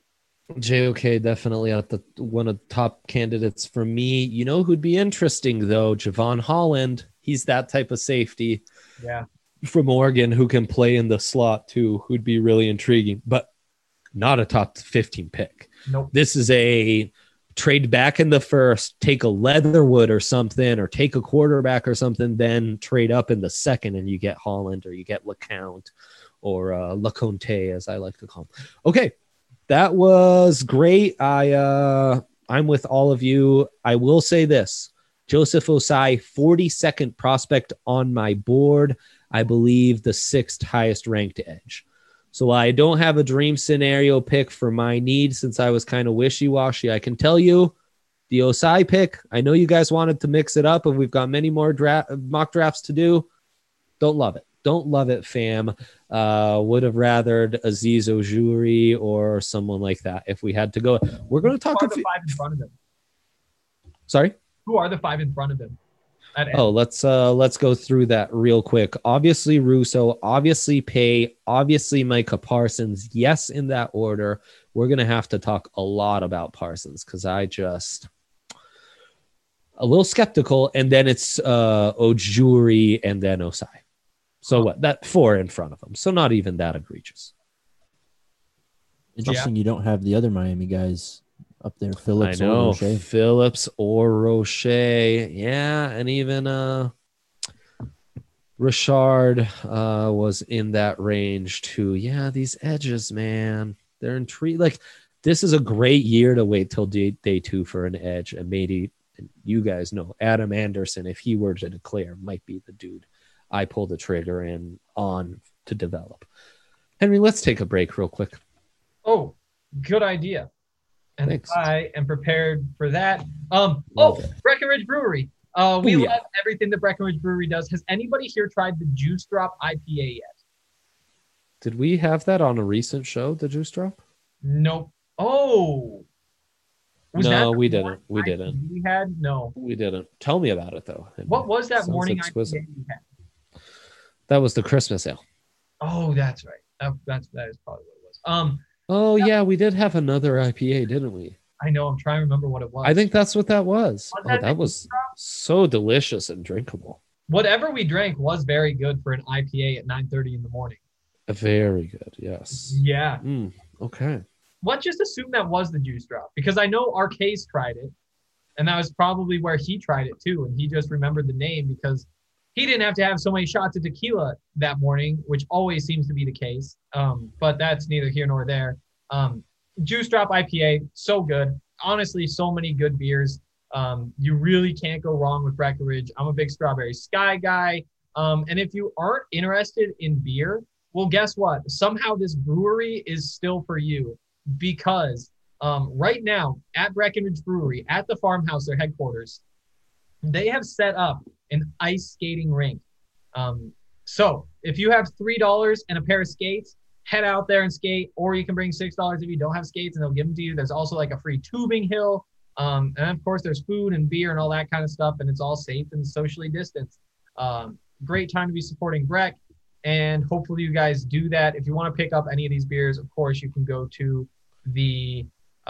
JOK definitely at the one of the top candidates for me. You know who'd be interesting though? Javon Holland. He's that type of safety. Yeah. From Oregon who can play in the slot too, who'd be really intriguing, but not a top 15 pick. Nope. This is a trade back in the first, take a Leatherwood or something, or take a quarterback or something, then trade up in the second and you get Holland or you get LeCount or LeConte, as I like to call him. Okay. That was great. I'm with all of you. I will say this, Joseph Osai, 42nd prospect on my board. I believe the 6th highest ranked edge. So I don't have a dream scenario pick for my need since I was kind of wishy-washy. I can tell you the Osai pick, I know you guys wanted to mix it up and we've got many more mock drafts to do. Don't love it. Don't love it, fam. Would have rathered Aziz Ojuri or someone like that if we had to go. We're going to talk about the 5 in front of him. Sorry? Who are the 5 in front of him? Oh, let's go through that real quick. Obviously Russo, obviously Pay, obviously Micah Parsons. Yes, in that order. We're gonna have to talk a lot about Parsons because I just a little skeptical. And then it's Ojuri and then Osai. So what? That 4 in front of him. So not even that egregious. Interesting. You don't have the other Miami guys up there, Phillips. I know, or Roche. Phillips or Roche. Yeah, and even Richard was in that range too. Yeah, these edges, man, they're intrigued. Like, this is a great year to wait till day 2 for an edge. And maybe, you guys know, Adam Anderson, if he were to declare, might be the dude I pull the trigger on to develop. Henry, let's take a break real quick. Oh, good idea. And Thanks. I am prepared for that. Breckenridge Brewery. We love everything that Breckenridge Brewery does. Has anybody here tried the Juice Drop IPA yet? Did we have that on a recent show, the Juice Drop? Nope. Oh. No, we didn't. We didn't. We had? No. We didn't. Tell me about it, though. What was that Sounds morning exquisite. IPA we had? That was the Christmas ale. Oh, that's right. That is probably what it was. Oh, yeah, we did have another IPA, didn't we? I know. I'm trying to remember what it was. I think that's what that was. That was Juice Drop? so delicious and drinkable. Whatever we drank was very good for an IPA at 9:30 in the morning. Very good, yes. Yeah. Okay. Let's just assume that was the Juice Drop because I know Arcase tried it, and that was probably where he tried it too, and he just remembered the name because he didn't have to have so many shots of tequila that morning, which always seems to be the case. But that's neither here nor there. Juice Drop IPA, so good. Honestly, so many good beers. You really can't go wrong with Breckenridge. I'm a big Strawberry Sky guy. And if you aren't interested in beer, well, guess what? Somehow this brewery is still for you because right now at Breckenridge Brewery, at the farmhouse, their headquarters, they have set up an ice skating rink. So if you have $3 and a pair of skates, head out there and skate, or you can bring $6 if you don't have skates and they'll give them to you. There's also like a free tubing hill. And of course there's food and beer and all that kind of stuff, and it's all safe and socially distanced. Great time to be supporting Breck, and hopefully you guys do that. If you want to pick up any of these beers, of course you can go to the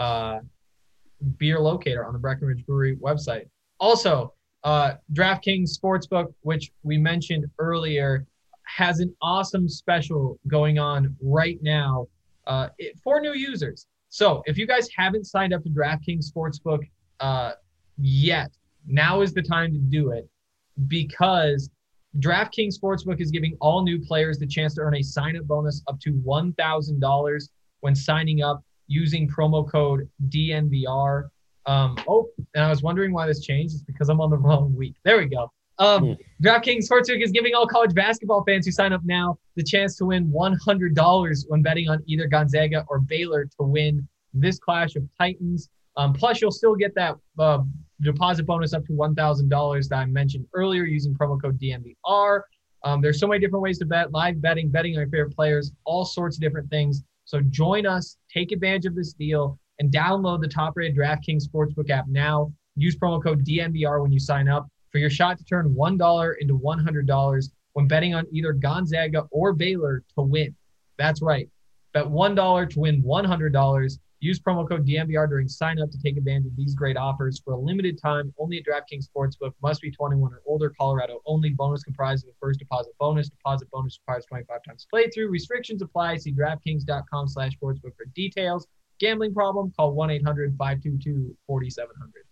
beer locator on the Breckenridge Brewery website. Also, DraftKings Sportsbook, which we mentioned earlier, has an awesome special going on right now for new users. So if you guys haven't signed up to DraftKings Sportsbook yet, now is the time to do it because DraftKings Sportsbook is giving all new players the chance to earn a sign-up bonus up to $1,000 when signing up using promo code DNVR. And I was wondering why this changed. It's because I'm on the wrong week. There we go. DraftKings Sportsbook is giving all college basketball fans who sign up now the chance to win $100 when betting on either Gonzaga or Baylor to win this Clash of Titans. Plus, you'll still get that deposit bonus up to $1,000 that I mentioned earlier using promo code DNVR. There's so many different ways to bet, live betting on your favorite players, all sorts of different things. So join us, take advantage of this deal, and download the top-rated DraftKings Sportsbook app now. Use promo code DNVR when you sign up for your shot to turn $1 into $100 when betting on either Gonzaga or Baylor to win. That's right. Bet $1 to win $100. Use promo code DNVR during sign-up to take advantage of these great offers for a limited time. Only at DraftKings Sportsbook. Must be 21 or older. Colorado only. Bonus comprised of a first deposit bonus. Deposit bonus requires 25 times playthrough. Restrictions apply. See DraftKings.com/sportsbook for details. Gambling problem? Call 1-800-522-4700.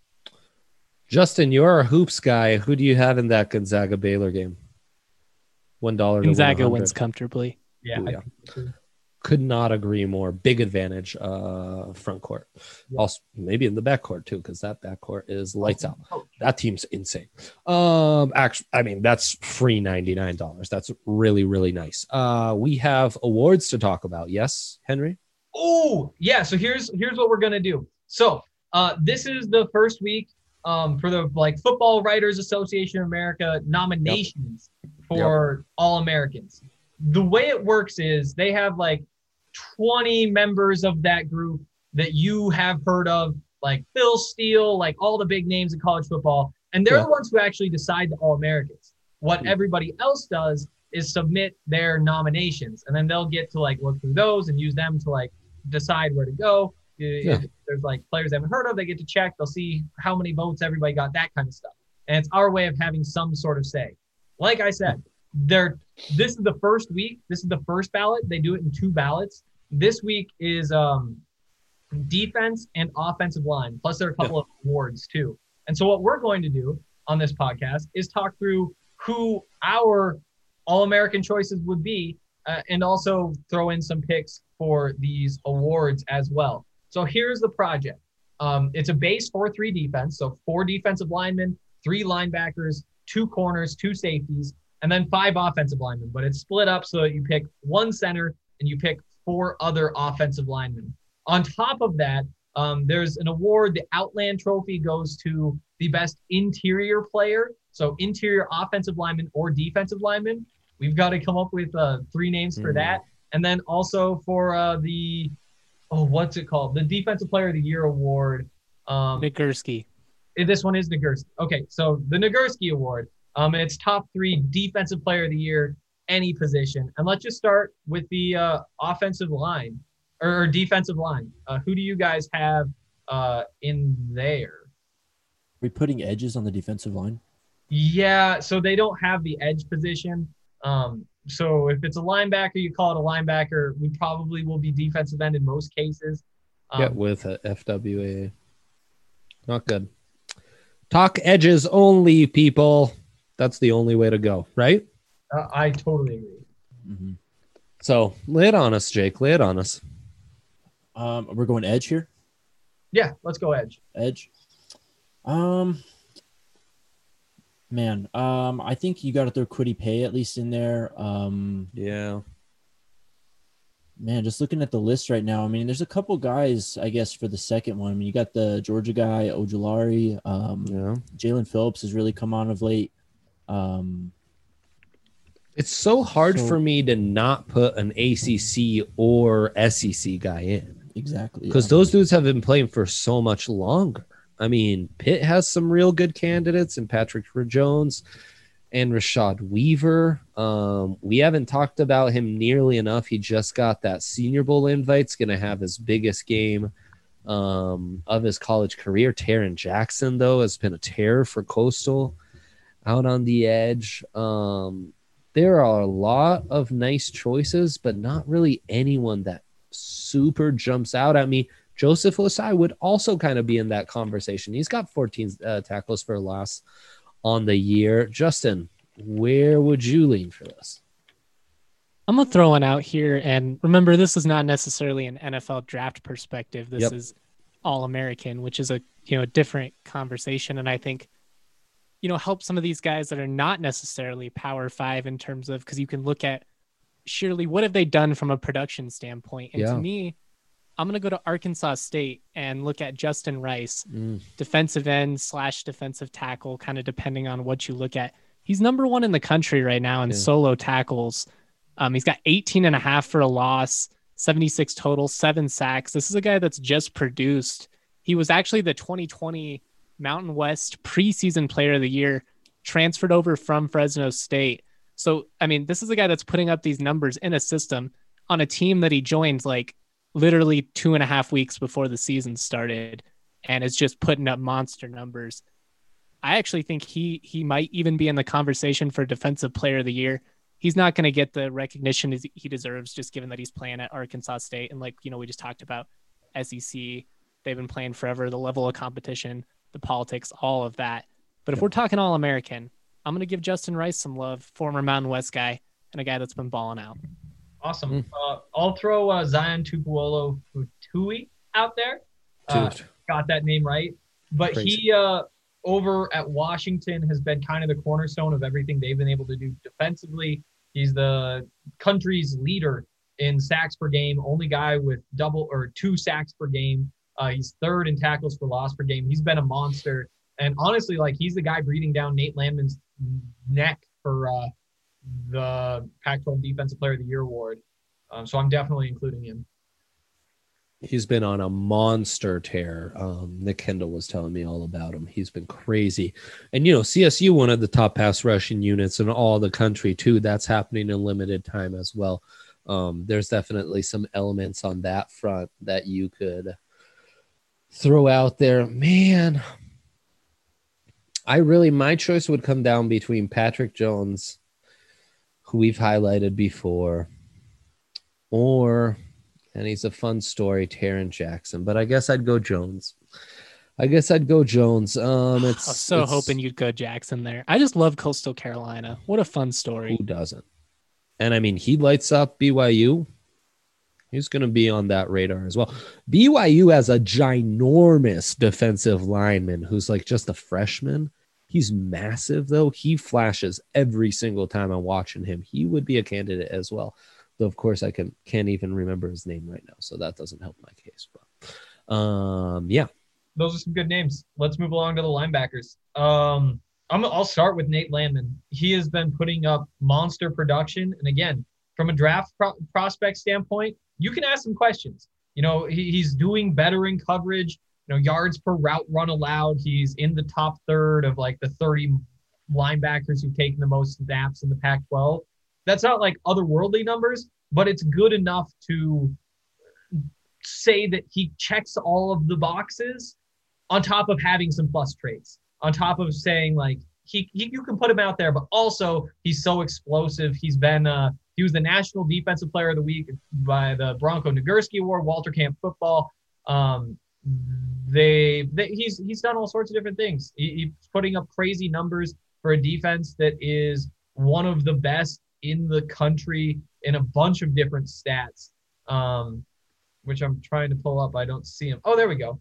Justin, you're a hoops guy. Who do you have in that Gonzaga Baylor game? $1 to Gonzaga 100. wins comfortably. Yeah. Ooh, yeah. Could not agree more. Big advantage front court. Yeah. Also, maybe in the back court too, because that back court is lights out. That team's insane. Actually, I mean, that's free $99. That's really, really nice. We have awards to talk about. Yes, Henry? Oh, yeah. So here's what we're gonna do. So this is the first week for the Football Writers Association of America nominations for All-Americans. The way it works is they have 20 members of that group that you have heard of, like Phil Steele, all the big names in college football. And they're the ones who actually decide the All-Americans. What everybody else does is submit their nominations, and then they'll get to look through those and use them to decide where to go. If there's players they haven't heard of, they get to check. They'll see how many votes everybody got, that kind of stuff. And it's our way of having some sort of say. Like I said, this is the first week. This is the first ballot. They do it in 2 ballots. This week is defense and offensive line. Plus, there are a couple of awards too. And so what we're going to do on this podcast is talk through who our All-American choices would be, and also throw in some picks for these awards as well. So here's the project. It's a base 4-3 defense. So 4 defensive linemen, 3 linebackers, 2 corners, 2 safeties, and then 5 offensive linemen. But it's split up so that you pick 1 center and you pick 4 other offensive linemen. On top of that, there's an award. The Outland Trophy goes to the best interior player. So interior offensive lineman or defensive lineman. We've got to come up with 3 names for that. And then also for what's it called? The Defensive Player of the Year award. Nagurski. This one is Nagurski. Okay, so the Nagurski award. It's top 3 Defensive Player of the Year, any position. And let's just start with the offensive line or defensive line. Who do you guys have in there? Are we putting edges on the defensive line? Yeah, so they don't have the edge position. So if it's a linebacker, you call it a linebacker. We probably will be defensive end in most cases. With a FWA. Not good. Talk edges only, people. That's the only way to go, right? I totally agree. Mm-hmm. So lay it on us, Jake. Lay it on us. We're going edge here? Yeah, let's go edge. Edge. Man, I think you got to throw Kwity Paye at least in there. Yeah. Man, just looking at the list right now, I mean, there's a couple guys, I guess, for the second one. I mean, you got the Georgia guy, Ojulari. Jalen Phillips has really come on of late. It's so hard for me to not put an ACC or SEC guy in. Exactly. Because those dudes have been playing for so much longer. I mean, Pitt has some real good candidates, and Patrick Jones and Rashad Weaver. We haven't talked about him nearly enough. He just got that Senior Bowl invite. It's going to have his biggest game of his college career. Taron Jackson, though, has been a terror for Coastal out on the edge. There are a lot of nice choices, but not really anyone that super jumps out at me. Joseph Osai would also kind of be in that conversation. He's got 14 tackles for loss on the year. Justin, where would you lean for this? I'm going to throw one out here. And remember, this is not necessarily an NFL draft perspective. This is All-American, which is a different conversation. And I think, help some of these guys that are not necessarily Power 5 in terms of, because you can look at surely what have they done from a production standpoint. And to me, I'm going to go to Arkansas State and look at Justin Rice, defensive end / defensive tackle, kind of depending on what you look at. He's number 1 in the country right now in solo tackles. He's got 18.5 for a loss, 76 total, 7 sacks. This is a guy that's just produced. He was actually the 2020 Mountain West preseason player of the year, transferred over from Fresno State. So, I mean, this is a guy that's putting up these numbers in a system on a team that he joined like literally 2.5 weeks before the season started, and is just putting up monster numbers. I actually think he might even be in the conversation for defensive player of the year. He's not going to get the recognition he deserves, just given that he's playing at Arkansas State. And like, we just talked about SEC, they've been playing forever, the level of competition, the politics, all of that. But if we're talking All-American, I'm going to give Justin Rice some love, former Mountain West guy, and a guy that's been balling out. Awesome. I'll throw Zion Tupuola-Futui out there. Got that name right. But crazy. He, over at Washington, has been kind of the cornerstone of everything they've been able to do defensively. He's the country's leader in sacks per game, only guy with 2 sacks per game. He's 3rd in tackles for loss per game. He's been a monster. And honestly, like, he's the guy breathing down Nate Landman's neck for the Pac-12 Defensive Player of the Year award. So I'm definitely including him. He's been on a monster tear. Nick Kendall was telling me all about him. He's been crazy. And, CSU, one of the top pass rushing units in all the country, too. That's happening in limited time as well. There's definitely some elements on that front that you could throw out there. Man, my choice would come down between Patrick Jones, who we've highlighted before, and he's a fun story, Taron Jackson. But I guess I'd go Jones. I was so hoping you'd go Jackson there. I just love Coastal Carolina. What a fun story. Who doesn't? And I mean, he lights up BYU. He's going to be on that radar as well. BYU has a ginormous defensive lineman who's like just a freshman. He's massive, though. He flashes every single time I'm watching him. He would be a candidate as well. Though, of course, I can't even remember his name right now, so that doesn't help my case. But yeah. Those are some good names. Let's move along to the linebackers. I'll start with Nate Landman. He has been putting up monster production. And again, from a draft prospect standpoint, you can ask some questions. He's doing better in coverage. Yards per route run allowed. He's in the top third of like the 30 linebackers who've taken the most snaps in the Pac-12. That's not like otherworldly numbers, but it's good enough to say that he checks all of the boxes on top of having some plus traits, on top of saying like you can put him out there, but also he's so explosive. He was the National Defensive Player of the Week by the Bronco Nagurski Award, Walter Camp Football. He's done all sorts of different things. He's putting up crazy numbers for a defense that is one of the best in the country in a bunch of different stats, which I'm trying to pull up. I don't see him. Oh, there we go.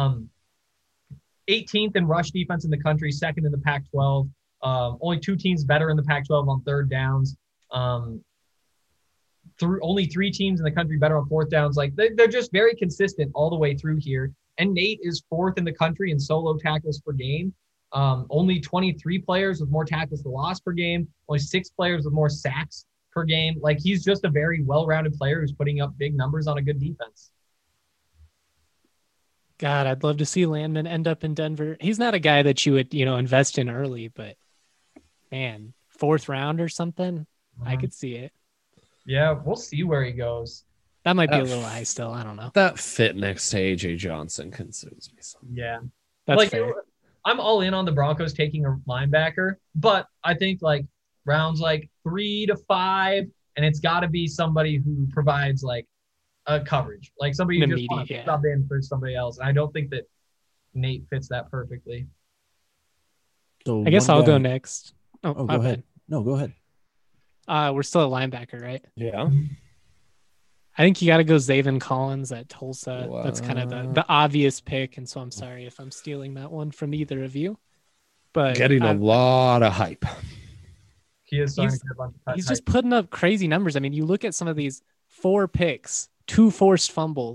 18th in rush defense in the country, 2nd in the Pac-12. Only 2 teams better in the Pac-12 on 3rd downs. Only 3 teams in the country better on 4th downs. Like they're just very consistent all the way through here. And Nate is 4th in the country in solo tackles per game. Only 23 players with more tackles for loss per game. Only 6 players with more sacks per game. Like, he's just a very well-rounded player who's putting up big numbers on a good defense. God, I'd love to see Landman end up in Denver. He's not a guy that you would, invest in early, but man, 4th round or something, I could see it. Yeah, we'll see where he goes. That might be a little high still. I don't know. That fit next to AJ Johnson concerns me some. Yeah. That's fair. I'm all in on the Broncos taking a linebacker, but I think like rounds like 3 to 5, and it's got to be somebody who provides like a coverage, like somebody who just wants to sub in for somebody else. And I don't think that Nate fits that perfectly. So I guess I'll go next. Oh, go ahead. No, go ahead. We're still a linebacker, right? Yeah. I think you got to go Zaven Collins at Tulsa. Wow. That's kind of the obvious pick. And so I'm sorry if I'm stealing that one from either of you. But getting a lot of hype. He is starting to get a bunch of He's just putting up crazy numbers. I mean, you look at some of these 4 picks, 2 forced fumbles,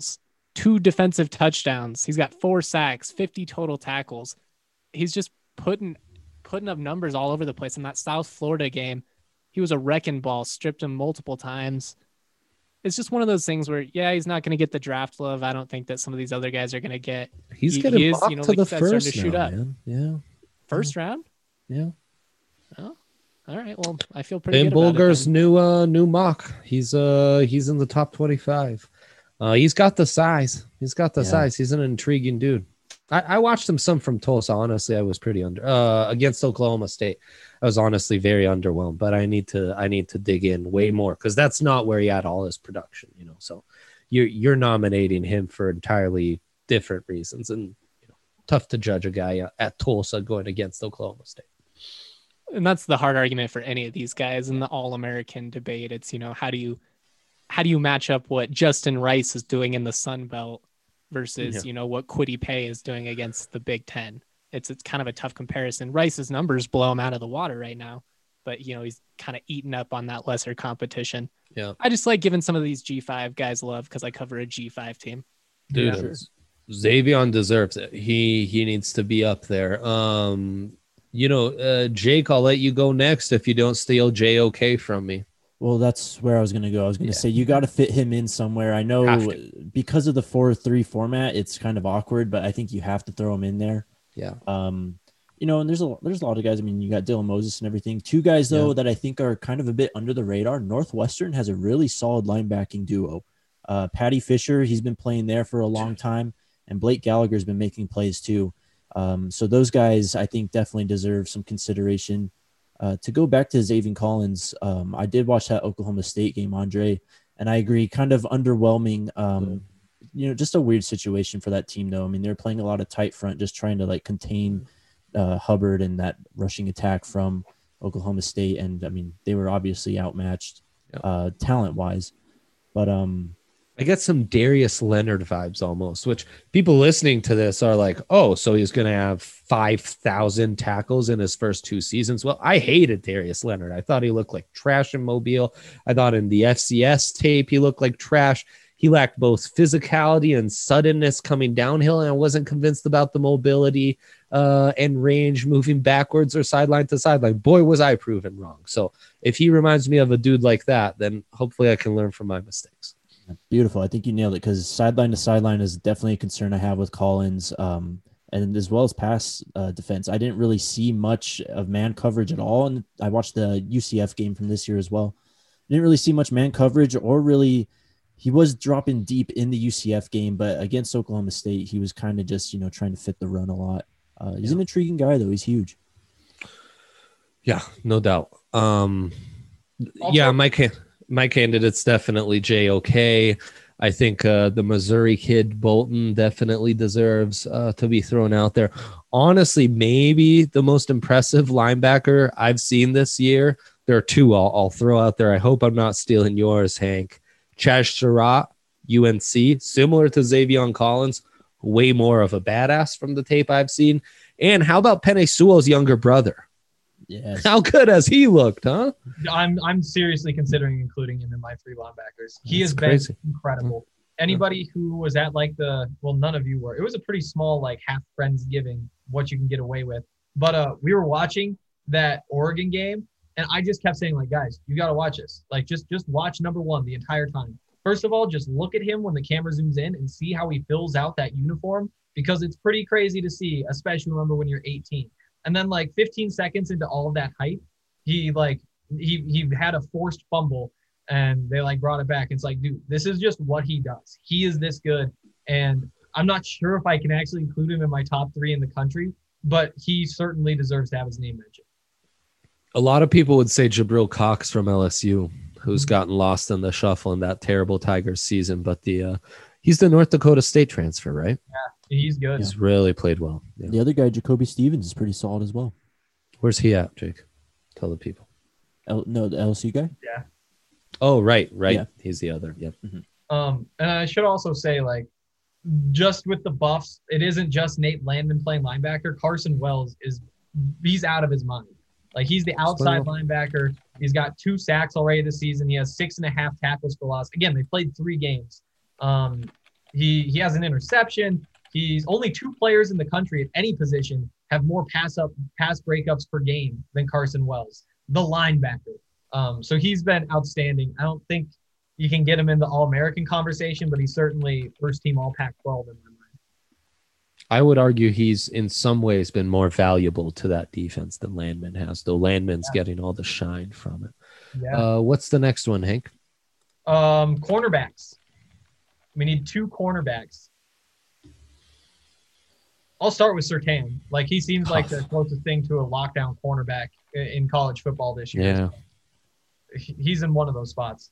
2 defensive touchdowns. He's got 4 sacks, 50 total tackles. He's just putting up numbers all over the place. In that South Florida game, he was a wrecking ball, stripped him multiple times. It's just one of those things where, yeah, he's not going to get the draft love. I don't think that some of these other guys are going to get. He's getting mocked to like the said, starting to first shoot now, up. man. Yeah. First round? Yeah. Oh, all right. Well, I feel pretty Ben good about Bulger's it. new mock. He's in the top 25. He's got the size. He's an intriguing dude. I watched him some from Tulsa. Honestly, I was pretty against Oklahoma State. I was honestly very underwhelmed, but I need to dig in way more because that's not where he had all his production, So you're nominating him for entirely different reasons, and tough to judge a guy at Tulsa going against Oklahoma State. And that's the hard argument for any of these guys in the All-American debate. It's, how do you match up what Justin Rice is doing in the Sun Belt versus, what Kwity Paye is doing against the Big Ten. It's kind of a tough comparison. Rice's numbers blow him out of the water right now, but he's kind of eaten up on that lesser competition. Yeah. I just like giving some of these G5 guys love because I cover a G5 team. Dude, Yeah. Xavion deserves it. He needs to be up there. Jake, I'll let you go next if you don't steal JOK from me. Well, that's where I was going to go. I was going to say you got to fit him in somewhere. I know because of the 4-3 format, it's kind of awkward, but I think you have to throw him in there. Yeah. And there's a lot of guys. I mean, you got Dylan Moses and everything. 2 guys though that I think are kind of a bit under the radar. Northwestern has a really solid linebacking duo. Patty Fisher, he's been playing there for a long time, and Blake Gallagher's been making plays too. So those guys, I think, definitely deserve some consideration. To go back to Zaven Collins, I did watch that Oklahoma State game, Andre, and I agree, kind of underwhelming. Just a weird situation for that team, though. I mean, they're playing a lot of tight front, just trying to contain Hubbard and that rushing attack from Oklahoma State. And I mean, they were obviously outmatched talent-wise, but I get some Darius Leonard vibes almost, which people listening to this are like, oh, so he's going to have 5,000 tackles in his first 2 seasons. Well, I hated Darius Leonard. I thought he looked like trash in Mobile. I thought in the FCS tape, he looked like trash. He lacked both physicality and suddenness coming downhill, and I wasn't convinced about the mobility and range moving backwards or sideline to sideline. Boy, was I proven wrong. So if he reminds me of a dude like that, then hopefully I can learn from my mistakes. Beautiful. I think you nailed it because sideline to sideline is definitely a concern I have with Collins, and as well as pass defense. I didn't really see much of man coverage at all, and I watched the UCF game from this year as well. Didn't really see much man coverage, or really, he was dropping deep in the UCF game, but against Oklahoma State, he was kind of just trying to fit the run a lot. He's an intriguing guy though. He's huge. Yeah, no doubt. My candidate's definitely JOK. I think the Missouri kid Bolton definitely deserves to be thrown out there. Honestly, maybe the most impressive linebacker I've seen this year. There are 2 I'll throw out there. I hope I'm not stealing yours, Hank. Chaz Surratt, UNC, similar to Zaven Collins, way more of a badass from the tape I've seen. And how about Penei Sewell's younger brother? Yes. How good has he looked, huh? I'm seriously considering including him in my 3 linebackers. He has crazy. been incredible. Anybody who was at none of you were. It was a pretty small half Friendsgiving, what you can get away with. But we were watching that Oregon game, and I just kept saying guys, you got to watch this. Just watch number 1 the entire time. First of all, just look at him when the camera zooms in and see how he fills out that uniform, because it's pretty crazy to see, especially remember when you're 18. And then 15 seconds into all of that hype, he had a forced fumble and they brought it back. It's dude, this is just what he does. He is this good. And I'm not sure if I can actually include him in my top 3 in the country, but he certainly deserves to have his name mentioned. A lot of people would say Jabril Cox from LSU, who's gotten lost in the shuffle in that terrible Tigers season, but he's the North Dakota State transfer, right? Yeah, he's good. He's really played well. Yeah. The other guy, Jacoby Stevens, is pretty solid as well. Where's he at, Jake? Tell the people. The LSU guy? Yeah. Oh, right. Yeah. He's the other. Yep. And I should also say, just with the Buffs, it isn't just Nate Landman playing linebacker. Carson Wells he's out of his mind. He's the outside linebacker. He's got 2 sacks already this season. He has 6.5 tackles for loss. Again, they played 3 games. He has an interception. He's only 2 players in the country at any position have more pass breakups per game than Carson Wells, the linebacker. So he's been outstanding. I don't think you can get him in the All-American conversation, but he's certainly first team All Pac-12 in my mind. I would argue he's in some ways been more valuable to that defense than Landman has, though Landman's getting all the shine from it. Yeah. What's the next one, Hank? Cornerbacks. We need 2 cornerbacks. I'll start with Surtain. Like, he seems like the closest thing to a lockdown cornerback in college football this year. Yeah. He's in one of those spots.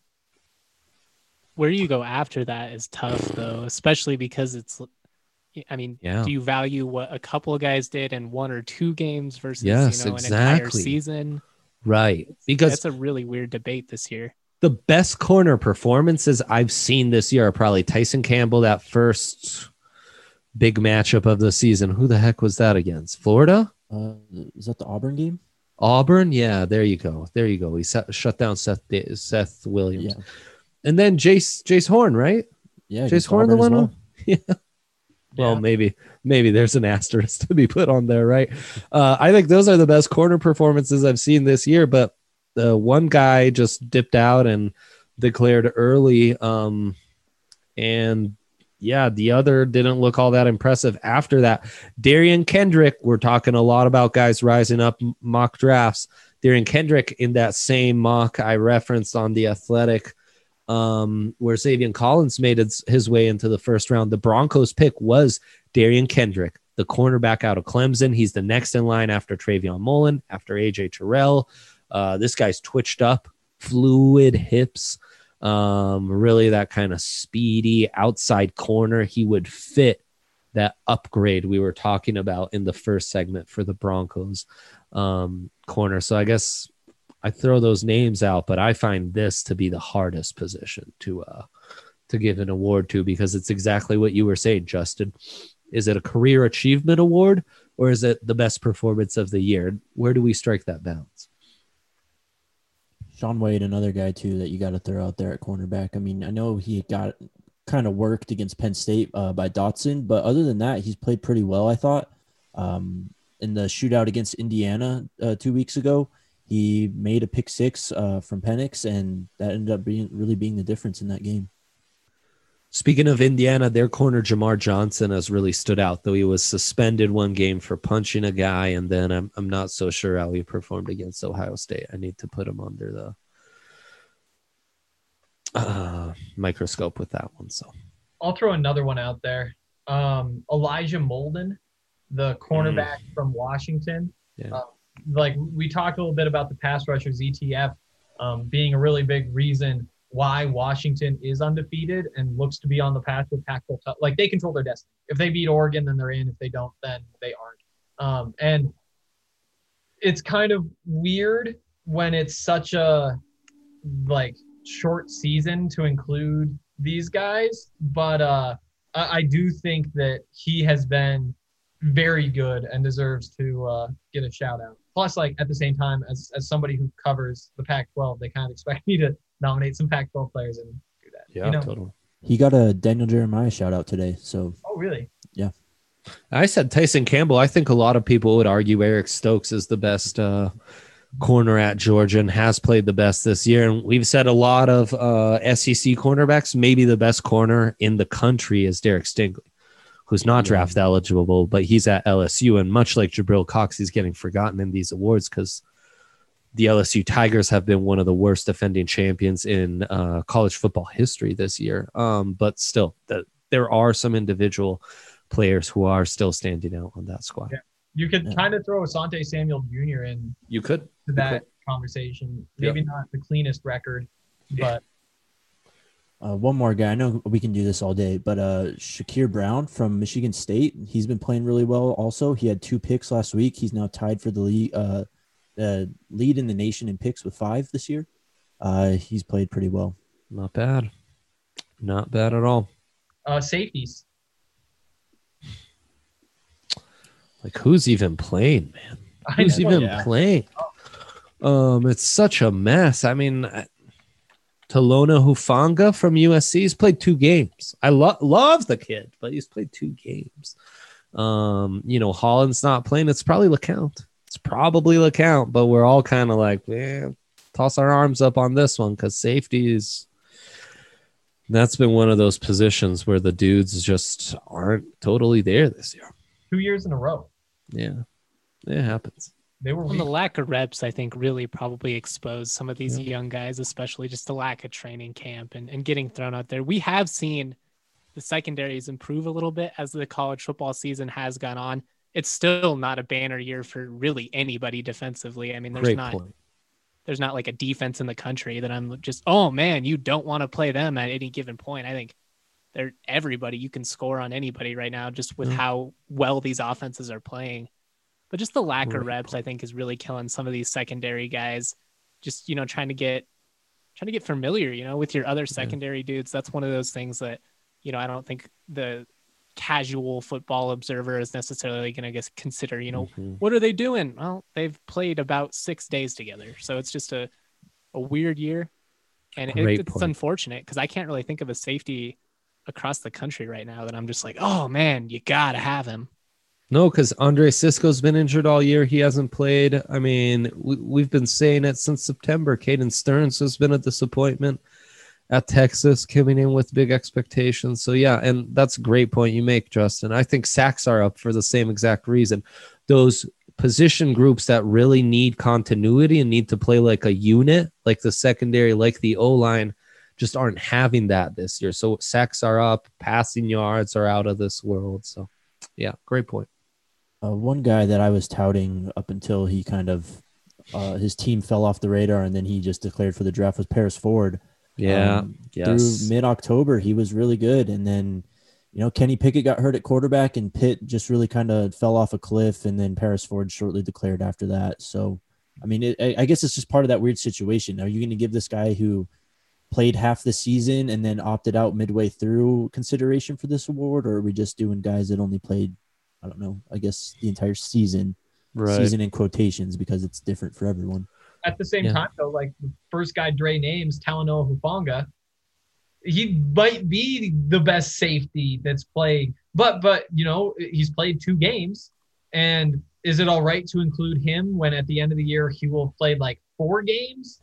Where you go after that is tough, though, especially because it's, I mean, do you value what a couple of guys did in 1 or 2 games versus an entire season? Right. Because that's a really weird debate this year. The best corner performances I've seen this year are probably Tyson Campbell, that first big matchup of the season. Who the heck was that against? Florida? Is that the Auburn game? Auburn? Yeah, there you go. He shut down Seth Williams. Yeah. And then Jace Horn, right? Yeah, Jace Horn, the one. Well. Yeah. Well, maybe there's an asterisk to be put on there, right? I think those are the best corner performances I've seen this year, but the one guy just dipped out and declared early. And yeah, the other didn't look all that impressive after that. Darian Kendrick, we're talking a lot about guys rising up mock drafts. Darian Kendrick in that same mock I referenced on The Athletic, where Xavier Collins made his way into the first round. The Broncos pick was Darian Kendrick, the cornerback out of Clemson. He's the next in line after Travion Mullen, after AJ Terrell. This guy's twitched up, fluid hips, really that kind of speedy outside corner. He would fit that upgrade we were talking about in the first segment for the Broncos corner. So I guess I throw those names out, but I find this to be the hardest position to give an award to, because it's exactly what you were saying, Justin. Is it a career achievement award, or is it the best performance of the year? Where do we strike that balance? Shaun Wade, another guy too that you got to throw out there at cornerback. I mean, I know he got kind of worked against Penn State by Dotson, but other than that, he's played pretty well, I thought. In the shootout against Indiana 2 weeks ago, he made a pick 6 from Penix, and that ended up being the difference in that game. Speaking of Indiana, their corner Jamar Johnson has really stood out, though he was suspended one game for punching a guy, and then I'm not so sure how he performed against Ohio State. I need to put him under the microscope with that one. So I'll throw another one out there. Elijah Molden, the cornerback from Washington. Yeah. Like we talked a little bit about the pass rushers ETF being a really big reason why Washington is undefeated and looks to be on the path with Pac-12. Like, they control their destiny. If they beat Oregon, then they're in. If they don't, then they aren't. And it's kind of weird when it's such a short season to include these guys, but I do think that he has been very good and deserves to get a shout out. Plus, at the same time, as somebody who covers the Pac-12, they kind of expect me to nominate some Pac-12 players and do that. Yeah, totally. He got a Daniel Jeremiah shout out today. So. Oh, really? Yeah. I said Tyson Campbell. I think a lot of people would argue Eric Stokes is the best corner at Georgia and has played the best this year. And we've said a lot of SEC cornerbacks. Maybe the best corner in the country is Derek Stingley, who's not draft eligible, but he's at LSU. And much like Jabril Cox, he's getting forgotten in these awards because the LSU Tigers have been one of the worst defending champions in college football history this year. But still, there are some individual players who are still standing out on that squad. Yeah. You could kind of throw Asante Samuel Jr. in. You could. To that conversation. Maybe not the cleanest record, but. One more guy. I know we can do this all day, but Shakir Brown from Michigan State, he's been playing really well also. He had 2 picks last week. He's now tied for the lead in the nation in picks with 5 this year. He's played pretty well. Not bad. Not bad at all. Safeties. Who's even playing, man? Who's even playing? It's such a mess. I mean, Talona Hufanga from USC. He's played 2 games. I love the kid, but he's played 2 games. Holland's not playing. It's probably LeCount, but we're all kind of like, toss our arms up on this one because that's been one of those positions where the dudes just aren't totally there this year. 2 years in a row. Yeah, it happens. They were the lack of reps, I think, really probably exposed some of these young guys, especially just the lack of training camp and getting thrown out there. We have seen the secondaries improve a little bit as the college football season has gone on. It's still not a banner year for really anybody defensively. I mean, there's not like a defense in the country that I'm just, oh man, you don't want to play them at any given point. I think everybody, you can score on anybody right now just with how well these offenses are playing. But just the lack of reps, I think, is really killing some of these secondary guys. Just, trying to get familiar, with your other secondary dudes. That's one of those things that, I don't think the casual football observer is necessarily going to consider, what are they doing? Well, they've played about 6 days together. So it's just a weird year. And it's unfortunate because I can't really think of a safety across the country right now that I'm just like, oh man, you got to have him. No, because Andre Sisco's been injured all year. He hasn't played. I mean, we've been saying it since September. Caden Stearns has been a disappointment at Texas, coming in with big expectations. So, yeah, and that's a great point you make, Justin. I think sacks are up for the same exact reason. Those position groups that really need continuity and need to play like a unit, like the secondary, like the O-line, just aren't having that this year. So sacks are up, passing yards are out of this world. So, yeah, great point. One guy that I was touting up until he kind of his team fell off the radar and then he just declared for the draft was Paris Ford. Yeah. Through mid-October, he was really good. And then, Kenny Pickett got hurt at quarterback and Pitt just really kind of fell off a cliff. And then Paris Ford shortly declared after that. So, I mean, I guess it's just part of that weird situation. Are you going to give this guy who played half the season and then opted out midway through consideration for this award? Or are we just doing guys that only played, I don't know, I guess the entire season, season in quotations, because it's different for everyone. At the same time, though, like the first guy Dre names, Talanoa Hufanga, he might be the best safety that's played, but he's played 2 games. And is it all right to include him when at the end of the year he will have played like 4 games?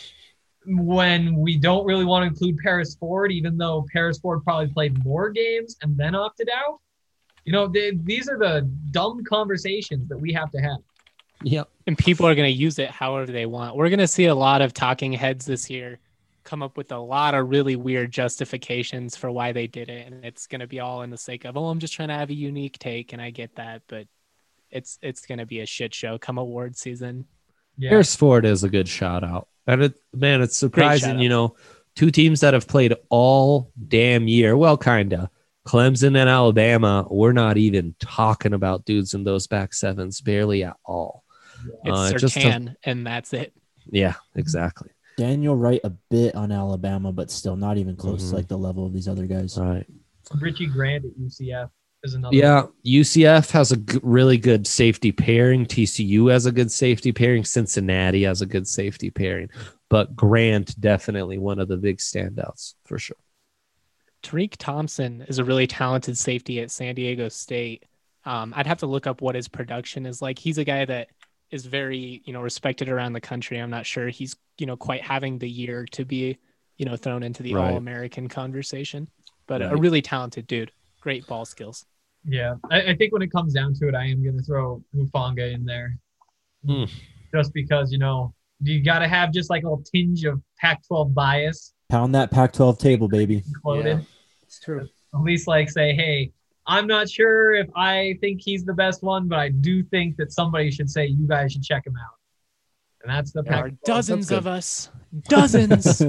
When we don't really want to include Paris Ford, even though Paris Ford probably played more games and then opted out. These are the dumb conversations that we have to have. Yep. And people are going to use it however they want. We're going to see a lot of talking heads this year come up with a lot of really weird justifications for why they did it. And it's going to be all in the sake of, I'm just trying to have a unique take. And I get that, but it's going to be a shit show come award season. Yeah. Paris Ford is a good shout out. And it's surprising, 2 teams that have played all damn year. Well, kind of. Clemson and Alabama, we're not even talking about dudes in those back sevens, barely at all. It's Surtain, and that's it. Yeah, exactly. Daniel Wright a bit on Alabama, but still not even close to like the level of these other guys. Right. Richie Grant at UCF is another. Yeah, one. UCF has a really good safety pairing. TCU has a good safety pairing. Cincinnati has a good safety pairing. But Grant, definitely one of the big standouts for sure. Tariq Thompson is a really talented safety at San Diego State. I'd have to look up what his production is like. He's a guy that is very, respected around the country. I'm not sure he's, quite having the year to be, thrown into the All-American conversation, but a really talented dude. Great ball skills. Yeah. I think when it comes down to it, I am going to throw Hufanga in there just because, you got to have just like a little tinge of Pac-12 bias. Pound that Pac-12 table, baby. Yeah, it's true. At least say, hey, I'm not sure if I think he's the best one, but I do think that somebody should say you guys should check him out. And that's the Pac-12. There are dozens of us. Dozens.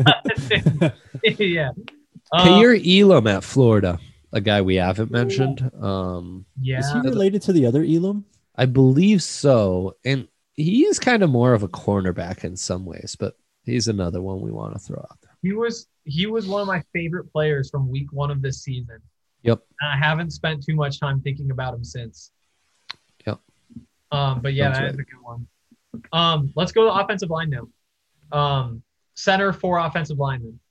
Yeah. Kair Elam at Florida, a guy we haven't mentioned. Yeah. Is he related to the other Elam? I believe so. And he is kind of more of a cornerback in some ways, but he's another one we want to throw out there. He was one of my favorite players from week 1 of this season. Yep. And I haven't spent too much time thinking about him since. Yep. But yeah, that's a good one. Let's go to offensive line now. Center for offensive linemen.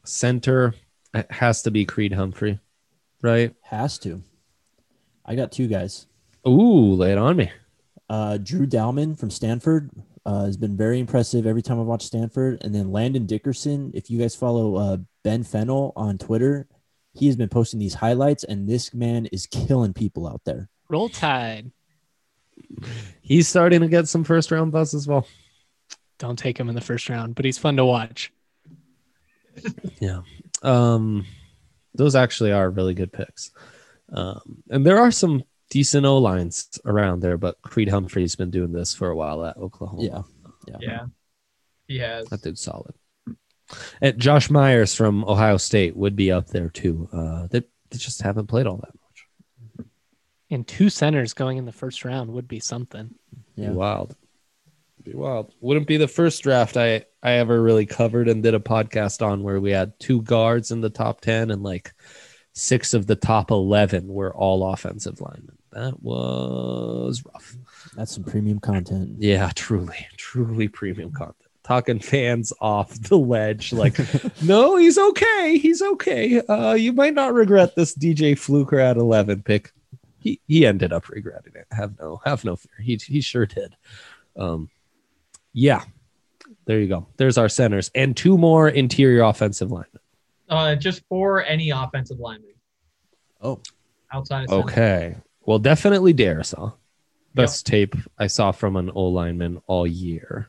Center, it has to be Creed Humphrey, right? Has to. I got two guys. Ooh, lay it on me. Drew Dalman from Stanford has been very impressive every time I've watched Stanford. And then Landon Dickerson, if you guys follow Ben Fennell on Twitter, he has been posting these highlights, and this man is killing people out there. Roll Tide. He's starting to get some first round buzz as well. Don't take him in the first round, but he's fun to watch. Yeah. Those actually are really good picks. And there are some decent O-lines around there, but Creed Humphrey's been doing this for a while at Oklahoma. Yeah. He has. That dude's solid. And Josh Myers from Ohio State would be up there too. They just haven't played all that much. And 2 centers going in the first round would be something. Yeah. Be wild. Wouldn't be the first draft I ever really covered and did a podcast on where we had 2 guards in the top 10 and like 6 of the top 11 were all offensive linemen. That was rough. That's some premium content. Yeah, truly premium content. Talking fans off the ledge, like, no, he's okay. He's okay. You might not regret this DJ Fluker at 11 pick. He ended up regretting it. Have no fear. He sure did. Yeah, there you go. There's our centers and 2 more interior offensive linemen. Just for any offensive lineman. Oh, outside of center. Okay. Well, definitely Darisaw. Best tape I saw from an O lineman all year.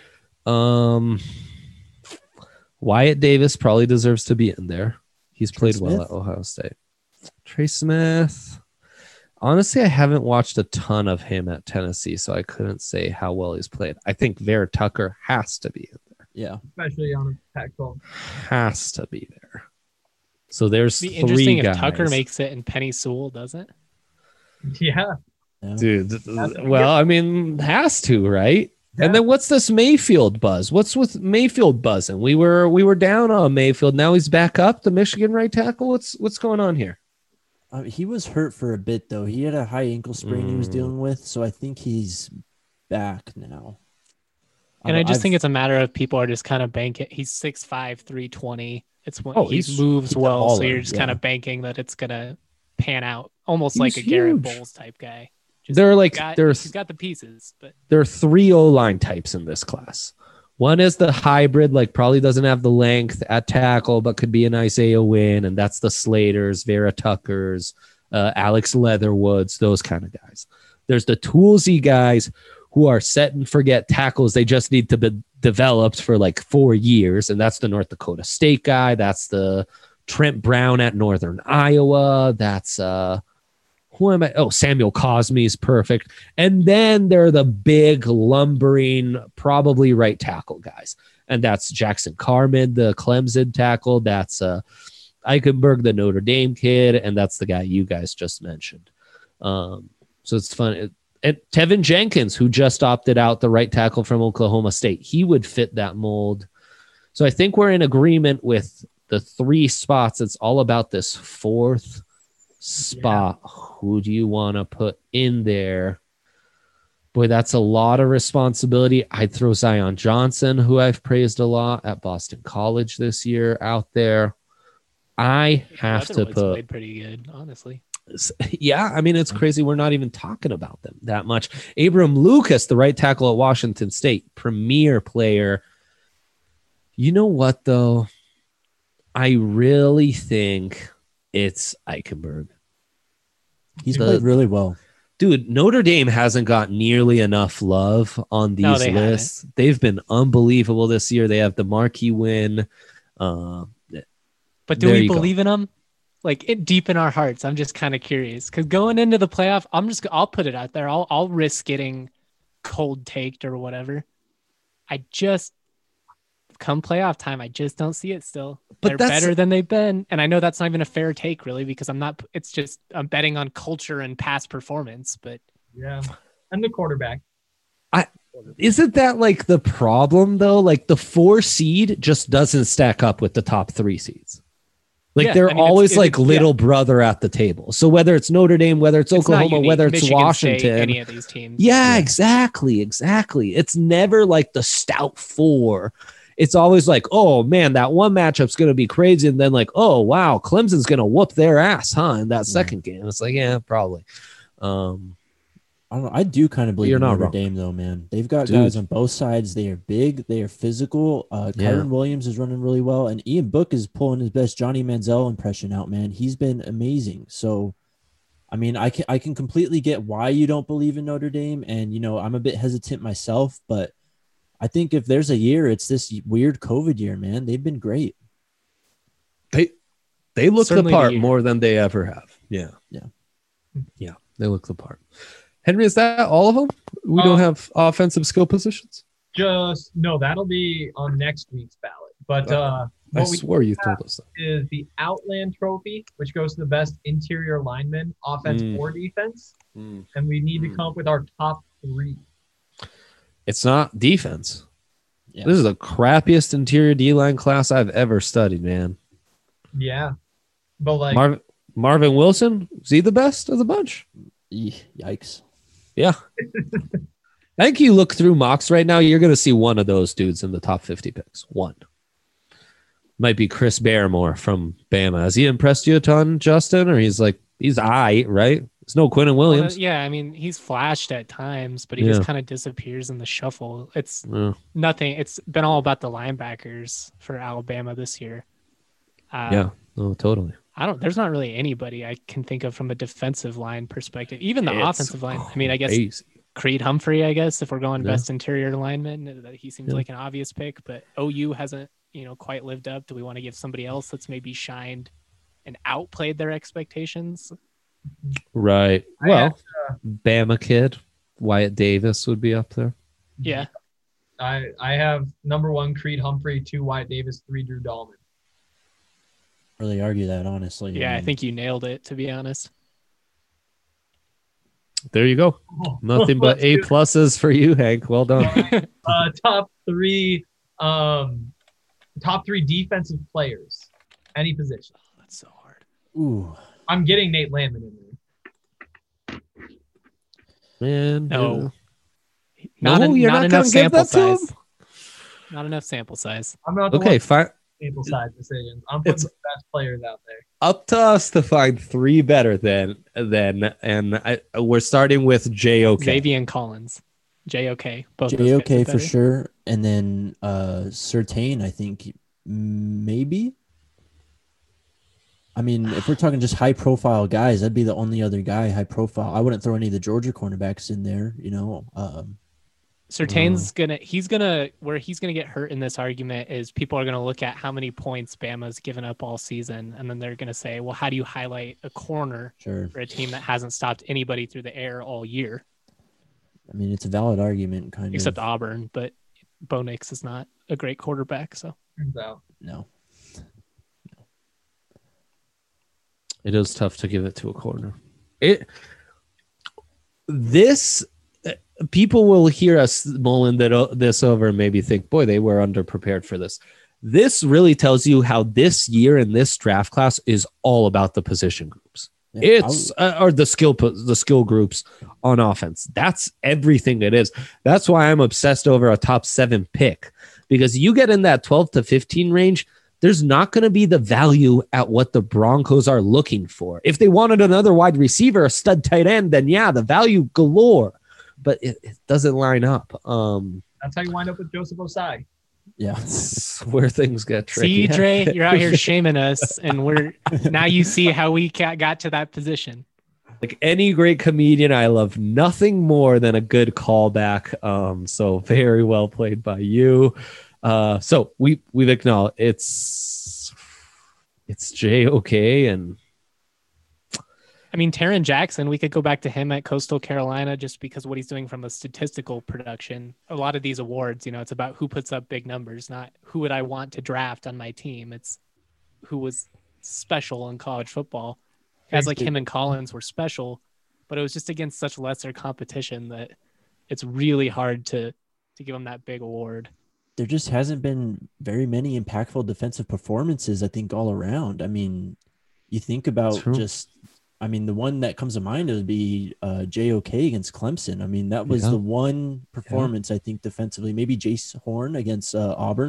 Wyatt Davis probably deserves to be in there. He's played well at Ohio State. Trey Smith. Honestly, I haven't watched a ton of him at Tennessee, so I couldn't say how well he's played. I think Vera Tucker has to be in there. Yeah. Especially on a Pac-12. Has to be there. So there's It'd be 3 interesting guys. if Tucker makes it and Penny Sewell doesn't. Yeah. Dude, well, I mean, has to, right? Yeah. And then what's this Mayfield buzz? What's with Mayfield buzzing? We were down on Mayfield. Now he's back up, the Michigan right tackle. What's going on here? He was hurt for a bit, though. He had a high ankle sprain he was dealing with, so I think he's back now. And I just think it's a matter of people are just kind of banking. He's 6'5", 320. It's when he moves well, so you're just kind of banking that it's gonna pan out, almost like a Garrett Bowles type guy. He's got the pieces, but there are 3 O-line types in this class. One is the hybrid, like probably doesn't have the length at tackle, but could be an Isaiah Wynn, and that's the Slaters, Vera Tuckers, Alex Leatherwoods, those kind of guys. There's the toolsy guys who are set and forget tackles. They just need to be developed for like 4 years, and that's the North Dakota State guy. That's the Trent Brown at Northern Iowa. That's who am I? Oh, Samuel Cosme is perfect. And then there are the big lumbering, probably right tackle guys. And that's Jackson Carman, the Clemson tackle. That's Eichenberg, the Notre Dame kid. And that's the guy you guys just mentioned. So it's fun. And Tevin Jenkins, who just opted out, the right tackle from Oklahoma State. He would fit that mold. So I think we're in agreement with the 3 spots. It's all about this 4th spot. Yeah. Who do you want to put in there? Boy, that's a lot of responsibility. I'd throw Zion Johnson, who I've praised a lot at Boston College this year, out there. I have to put played pretty good, honestly. Yeah, I mean, it's crazy. We're not even talking about them that much. Abram Lucas, the right tackle at Washington State, premier player. You know what, though? I really think it's Eichenberg. He's played really well. Dude, Notre Dame hasn't got nearly enough love on these lists. Haven't. They've been unbelievable this year. They have the marquee win. But do we believe in them? Like, it deep in our hearts, I'm just kind of curious. Because going into the playoff, I'll put it out there. I'll risk getting cold taked or whatever. Come playoff time, I just don't see it still. But they're better than they've been. And I know that's not even a fair take, really, because I'm betting on culture and past performance. But yeah, and the quarterback. Isn't that like the problem, though? Like the 4 seed just doesn't stack up with the top 3 seeds. Like they're always little brother at the table. So whether it's Notre Dame, whether it's Oklahoma, whether it's Michigan Washington, State, any of these teams. Yeah, exactly. It's never like the stout 4. it's always like, oh man, that one matchup's going to be crazy. And then like, oh wow, Clemson's going to whoop their ass, huh? In that second game. It's like, yeah, probably. I don't know. I do kind of believe You're in not Notre wrong. Dame, though, man. They've got Dude. guys on both sides. They are big. They are physical. Kyron Williams is running really well. And Ian Book is pulling his best Johnny Manziel impression out, man. He's been amazing. So, I mean, I can completely get why you don't believe in Notre Dame. And, you know, I'm a bit hesitant myself. But I think if there's a year, it's this weird COVID year, man. They've been great. They look Certainly the part the year. more than they ever have. Yeah. Yeah. Yeah. They look the part. Henry, is that all of them? We don't have offensive skill positions? No, that'll be on next week's ballot. But I what we swore you told us that. is the Outland Trophy, which goes to the best interior lineman, offense or defense. And we need to come up with our top 3. It's not defense. Yeah. This is the crappiest interior D-line class I've ever studied, man. Yeah. But like Marvin Wilson, is he the best of the bunch? Yikes. Yeah. I think you look through mocks right now, you're going to see one of those dudes in the top 50 picks. One. Might be Chris Barrymore from Bama. Has he impressed you a ton, Justin? Or he's right? There's no Quinnen Williams. Yeah, I mean, he's flashed at times, but he just kind of disappears in the shuffle. It's nothing. It's been all about the linebackers for Alabama this year. Yeah, no, totally. There's not really anybody I can think of from a defensive line perspective. Even the offensive line. I mean, I guess crazy. Creed Humphrey, I guess, if we're going best interior lineman, he seems like an obvious pick, but OU hasn't, quite lived up. Do we want to give somebody else that's maybe shined and outplayed their expectations? Right. Well, Bama kid, Wyatt Davis would be up there. Yeah. I have number 1 Creed Humphrey, 2 Wyatt Davis, 3 Drew Dahlman. Really argue that, honestly. Yeah, I think you nailed it, to be honest. There you go. Nothing but A pluses for you, Hank. Well done. Top 3 defensive players, any position. Oh, that's so hard. Ooh. I'm getting Nate Landman in there. Man, No. you're not enough going to give sample that to him? size. Not enough sample size. I'm not the Okay, one fine. sample size decisions. I'm putting the best players out there. Up to us to find 3 better than we're starting with JOK. Xavier and Collins. JOK. Both those JOK guys are for better. sure. And then Surtain, I think maybe. I mean, if we're talking just high profile guys, that'd be the only other guy high profile. I wouldn't throw any of the Georgia cornerbacks in there, Surtain's he's gonna get hurt in this argument is people are gonna look at how many points Bama's given up all season, and then they're gonna say, well, how do you highlight a corner Sure. for a team that hasn't stopped anybody through the air all year, I mean, it's a valid argument, kind except of. Auburn, but Bo Nix is not a great quarterback, so Turns out. No. It is tough to give it to a corner. People will hear us mulling this over and maybe think, boy, they were underprepared for this. This really tells you how this year in this draft class is all about the position groups. Yeah, Or the skill groups on offense. That's everything it is. That's why I'm obsessed over a top 7 pick, because you get in that 12 to 15 range, there's not going to be the value at what the Broncos are looking for. If they wanted another wide receiver, a stud tight end, then yeah, the value galore, but it doesn't line up. That's how you wind up with Joseph Osai. Yeah. That's where things get tricky. see, Dre, you're out here shaming us, and now you see how we got to that position. Like any great comedian, I love nothing more than a good callback. So very well played by you. So we've acknowledged it's JOK, and I mean, Taron Jackson, we could go back to him at Coastal Carolina just because what he's doing from a statistical production. A lot of these awards, it's about who puts up big numbers, not who would I want to draft on my team. It's who was special in college football. Guys like him and Collins were special, but it was just against such lesser competition that it's really hard to give them that big award. There just hasn't been very many impactful defensive performances, I think, all around. I mean, you think about the one that comes to mind would be JOK against Clemson. I mean, that was the one performance, I think, defensively. Maybe Jace Horn against Auburn.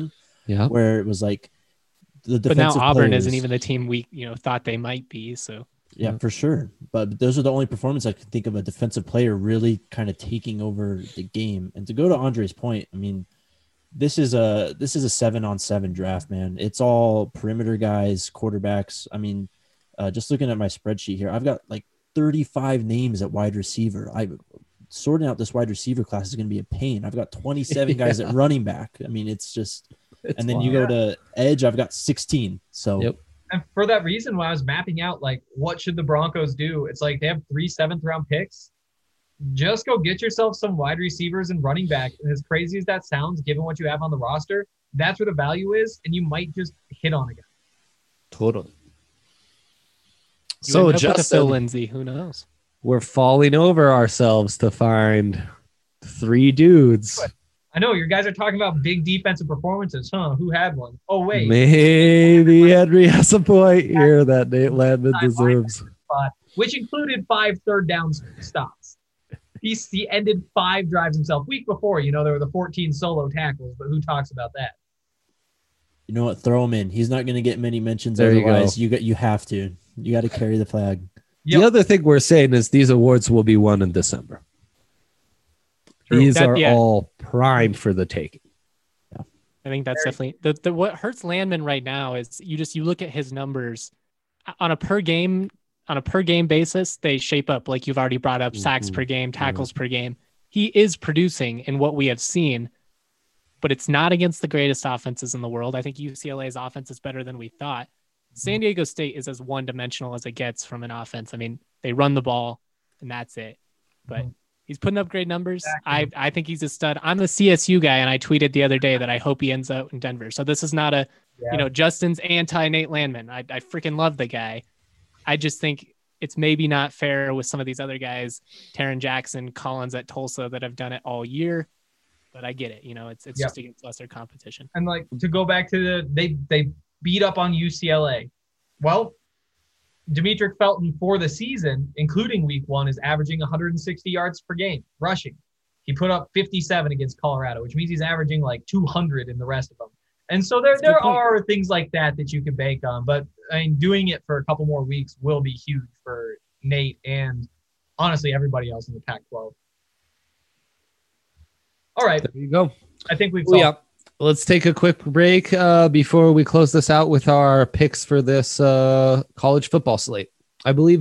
Yeah. where it was like the But now defensive Auburn players, isn't even the team we thought they might be. So yeah, for sure. But those are the only performances I can think of a defensive player really kind of taking over the game. And to go to Andre's point, I mean, this is a 7-on-7 draft, man. It's all perimeter guys, quarterbacks. I mean, just looking at my spreadsheet here, I've got like 35 names at wide receiver. Sorting out this wide receiver class is going to be a pain. I've got 27 guys at running back. I mean, it's just, and then you go to edge, I've got 16. So, Yep. And for that reason, when I was mapping out, like, what should the Broncos do? It's like they have 3 7th-round picks. Just go get yourself some wide receivers and running back. And as crazy as that sounds, given what you have on the roster, that's where the value is, and you might just hit on a guy. Totally. you So end up with a Phil Justin, Lindsay, who knows? we're falling over ourselves to find 3 dudes. I know your guys are talking about big defensive performances, huh? Who had one? Oh, wait. Maybe Henry has a point here that Nate Landman deserves. Which included 5 third-down stops. He ended 5 drives himself. Week before, there were the 14 solo tackles, but who talks about that? you know what? Throw him in. He's not going to get many mentions. There you go. Otherwise, you have to. You got to carry the flag. Yep. The other thing we're saying is these awards will be won in December. True. These are all primed for the taking. I think that's definitely the what hurts Landman right now is you look at his numbers on a per game basis, they shape up like you've already brought up, sacks per game, tackles per game. He is producing in what we have seen, but it's not against the greatest offenses in the world. I think UCLA's offense is better than we thought. San Diego State is as one-dimensional as it gets from an offense. I mean, they run the ball and that's it. But he's putting up great numbers. Exactly. I think he's a stud. I'm the CSU guy, and I tweeted the other day that I hope he ends up in Denver. So this is not Justin's anti-Nate Landman. I freaking love the guy. I just think it's maybe not fair with some of these other guys, Taron Jackson, Collins at Tulsa, that have done it all year. But I get it. It's just against lesser competition. And like to go back to they beat up on UCLA. Well, Demetric Felton for the season, including week 1, is averaging 160 yards per game rushing. He put up 57 against Colorado, which means he's averaging like 200 in the rest of them. And so there are things like that you can bank on. But I mean, doing it for a couple more weeks will be huge for Nate and honestly everybody else in the Pac-12. All right. There you go. I think we've solved. Let's take a quick break before we close this out with our picks for this college football slate. I believe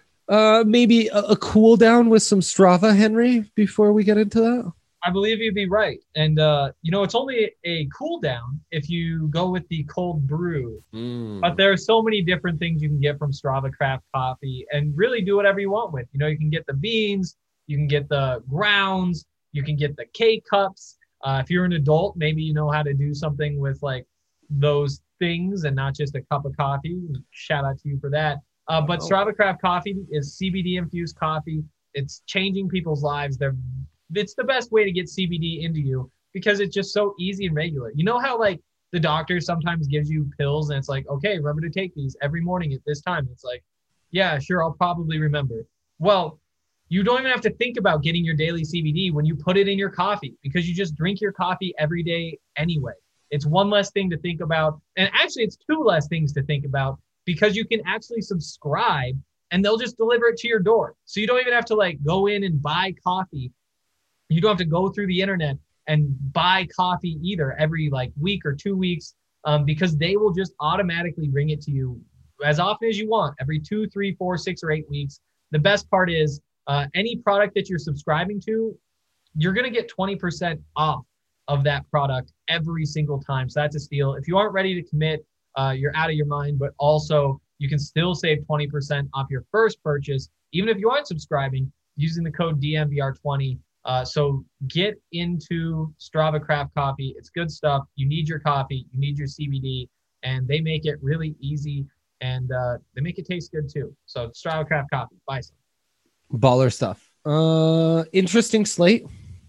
maybe a cool down with some Strava, Henry, before we get into that. I believe you'd be right. And, it's only a cool down if you go with the cold brew. But there are so many different things you can get from Strava Craft Coffee and really do whatever you want with. You can get the beans, you can get the grounds, you can get the K-Cups. If you're an adult, maybe you know how to do something with like those things and not just a cup of coffee. Shout out to you for that. But Strava Craft Coffee is CBD infused coffee. It's changing people's lives. It's the best way to get CBD into you because it's just so easy and regular. You know how like the doctor sometimes gives you pills and it's like, okay, remember to take these every morning at this time. It's like, yeah, sure, I'll probably remember. Well, you don't even have to think about getting your daily CBD when you put it in your coffee because you just drink your coffee every day anyway. It's one less thing to think about. And actually, it's 2 less things to think about because you can actually subscribe and they'll just deliver it to your door. So you don't even have to like go in and buy coffee. You don't have to go through the internet and buy coffee either every like week or 2 weeks because they will just automatically bring it to you as often as you want, every 2, 3, 4, 6, or 8 weeks. The best part is any product that you're subscribing to, you're going to get 20% off of that product every single time. So that's a steal. If you aren't ready to commit, you're out of your mind, but also you can still save 20% off your first purchase, even if you aren't subscribing, using the code DMVR20. So get into Strava Craft Coffee. It's good stuff. You need your coffee. You need your CBD. And they make it really easy. And they make it taste good too. So Strava Craft Coffee. Buy some. Baller stuff. Interesting slate.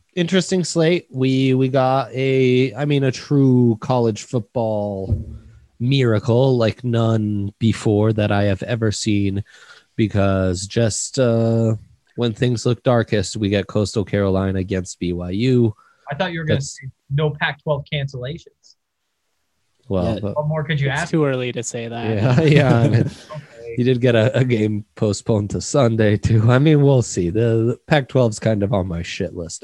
We got a true college football miracle like none before that I have ever seen because just when things look darkest, we get Coastal Carolina against BYU. I thought you were going to say no Pac-12 cancellations. Well, Yeah. but, What more could you It's ask? too early to say that. yeah. I mean, Okay. you did get a game postponed to Sunday too. I mean, we'll see. The Pac-12 is kind of on my shit list.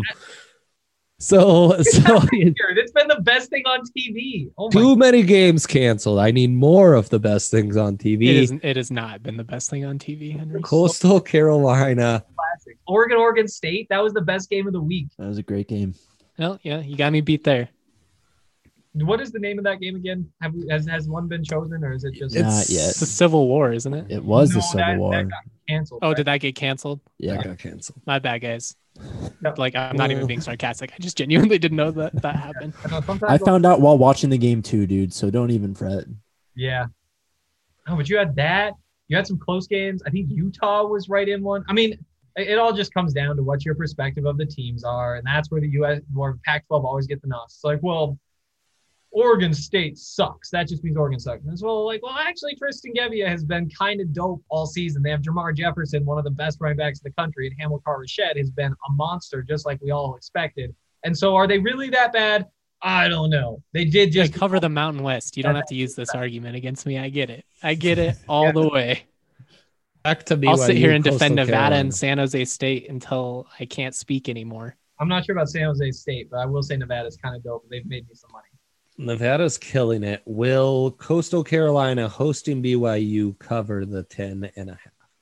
So Here, it's been the best thing on TV. Oh my too many games canceled. I need more of the best things on TV. It has not been the best thing on TV, Henry. Coastal Carolina. classic. Oregon State. That was the best game of the week. That was a great game. Well, yeah, you got me beat there. What is the name of that game again? Has one been chosen, or is it just Not yet. It's the Civil War, isn't it? It was No, the Civil that War. got canceled? Oh, right? did that get canceled? That Yeah. got canceled. My bad, guys. No. Like, I'm not even being sarcastic. I just genuinely didn't know that happened. I know, sometimes I found out while watching the game too, dude. So don't even fret. Yeah. Oh, but you had that. You had some close games. I think Utah was right in one. I mean, it all just comes down to what your perspective of the teams are, and that's where the U.S. or Pac-12 always get the knocks. It's like, well, Oregon State sucks. That just means Oregon sucks. And it's well, actually, Tristan Gebbia has been kind of dope all season. They have Jamar Jefferson, one of the best running backs in the country, and Hamilcar Rashed has been a monster, just like we all expected. And so, are they really that bad? I don't know. They did Just just cover the Mountain West. You don't have to use this argument against me. I get it all the way. Back to I'll sit BYU, here and defend Coastal Nevada Carolina. and San Jose State until I can't speak anymore. I'm not sure about San Jose State, but I will say Nevada's kind of dope. They've made me some money. Nevada's killing it. Will Coastal Carolina hosting BYU cover the 10.5?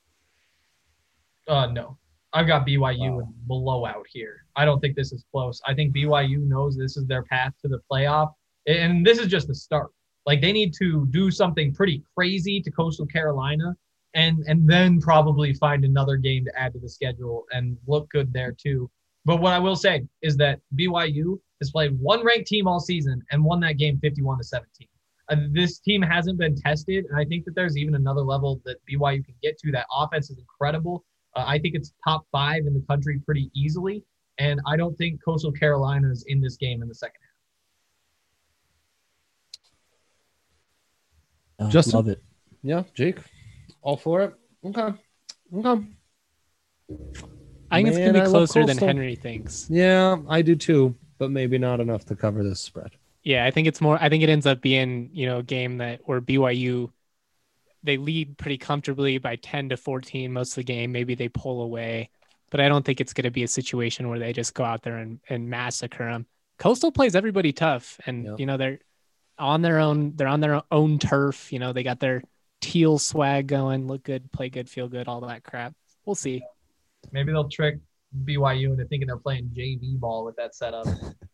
No. I've got BYU in blowout here. I don't think this is close. I think BYU knows this is their path to the playoff, and this is just the start. Like, they need to do something pretty crazy to Coastal Carolina and then probably find another game to add to the schedule and look good there too. But what I will say is that BYU has played one ranked team all season and won that game 51-17. This team hasn't been tested, and I think that there's even another level that BYU can get to. That offense is incredible. I think it's top 5 in the country pretty easily, and I don't think Coastal Carolina is in this game in the second half. Justin? Love it. Yeah, Jake, all for it. Okay. I think it's Man, going to I be love closer than Coastal. Henry thinks. Yeah, I do too, but maybe not enough to cover this spread. Yeah, I think it ends up being, a game where BYU, they lead pretty comfortably by 10-14 most of the game. Maybe they pull away, but I don't think it's going to be a situation where they just go out there and massacre them. Coastal plays everybody tough, and Yep. they're on their own turf. They got their teal swag going, look good, play good, feel good, all that crap. We'll see. Maybe they'll trick BYU into thinking they're playing JV ball with that setup.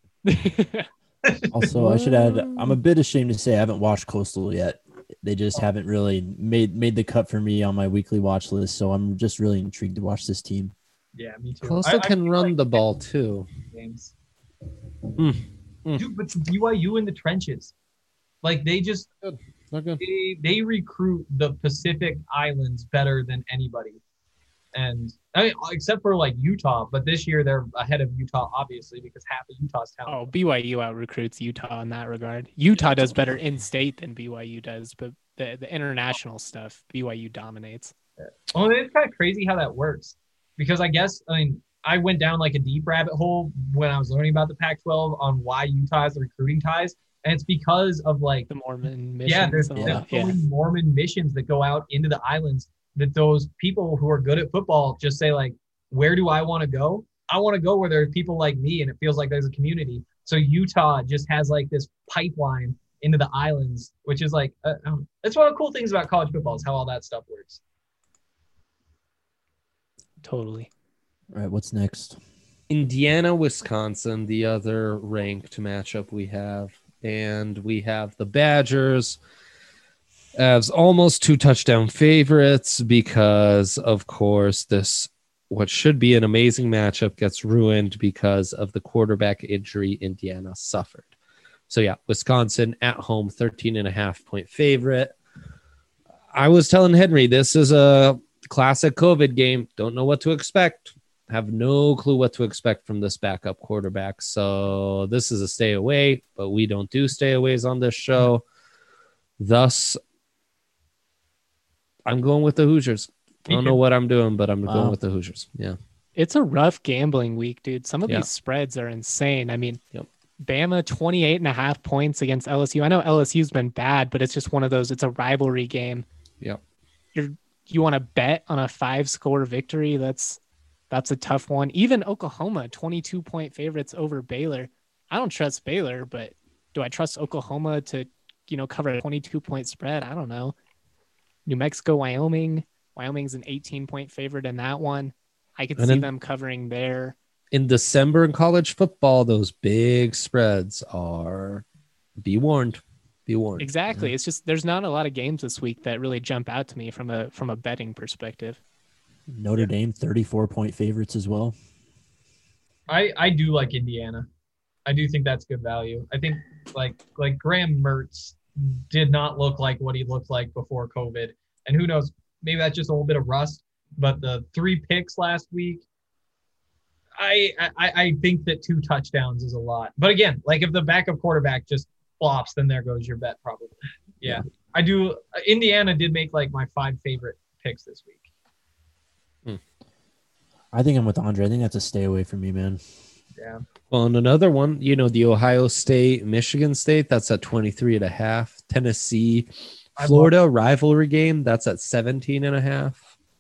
Also, I should add, I'm a bit ashamed to say I haven't watched Coastal yet. They just haven't really made the cut for me on my weekly watch list. So I'm just really intrigued to watch this team. Yeah, me too. Coastal I can feel run like the ball too. games. Mm. Dude, but BYU in the trenches, like they just Okay. they recruit the Pacific Islands better than anybody, and I mean, except for like Utah. But this year they're ahead of Utah, obviously, because half of Utah's talent. Oh, BYU out recruits Utah in that regard. Utah does better in state than BYU does, but the international stuff, BYU dominates. Well, it's kind of crazy how that works, because I went down like a deep rabbit hole when I was learning about the Pac-12 on why Utah has the recruiting ties, and it's because of like The Mormon mission. yeah, there's and all there's that. so many Mormon missions that go out into the islands that those people who are good at football just say like, where do I want to go? I want to go where there are people like me, and it feels like there's a community. So Utah just has like this pipeline into the islands, which is like, that's one of the cool things about college football is how all that stuff works. Totally. All right, what's next? Indiana, Wisconsin, the other ranked matchup we have. And we have the Badgers as almost 2 touchdown favorites because, of course, this what should be an amazing matchup gets ruined because of the quarterback injury Indiana suffered. So, yeah, Wisconsin at home, 13.5-point favorite. I was telling Henry, this is a classic COVID game. Don't know what to expect. Have no clue what to expect from this backup quarterback. So this is a stay away, but we don't do stayaways on this show. Thus, I'm going with the Hoosiers. I don't know what I'm doing, but I'm going with the Hoosiers. Yeah. It's a rough gambling week, dude. Some of Yeah. these spreads are insane. I mean, Yep. Bama 28.5 points against LSU. I know LSU's been bad, but it's just one of those, it's a rivalry game. Yep. You want to bet on a 5-score victory? That's a tough one. Even Oklahoma, 22-point favorites over Baylor. I don't trust Baylor, but do I trust Oklahoma to, cover a 22-point spread? I don't know. New Mexico, Wyoming. Wyoming's an 18-point favorite in that one. I could see them covering there. In December in college football, those big spreads are, be warned. Be warned. Exactly. Yeah. It's just there's not a lot of games this week that really jump out to me from a betting perspective. Notre Dame 34-point favorites as well. I do like Indiana. I do think that's good value. I think like Graham Mertz did not look like what he looked like before COVID. And who knows, maybe that's just a little bit of rust. But the 3 picks last week, I think that 2 touchdowns is a lot. But again, like if the backup quarterback just flops, then there goes your bet probably. Yeah. I do. Indiana did make like my 5 favorite picks this week. I think I'm with Andre. I think that's a stay away from me, man. Yeah. Well, and another one, the Ohio State, Michigan State, that's at 23.5. Tennessee, Florida rivalry game, that's at 17.5.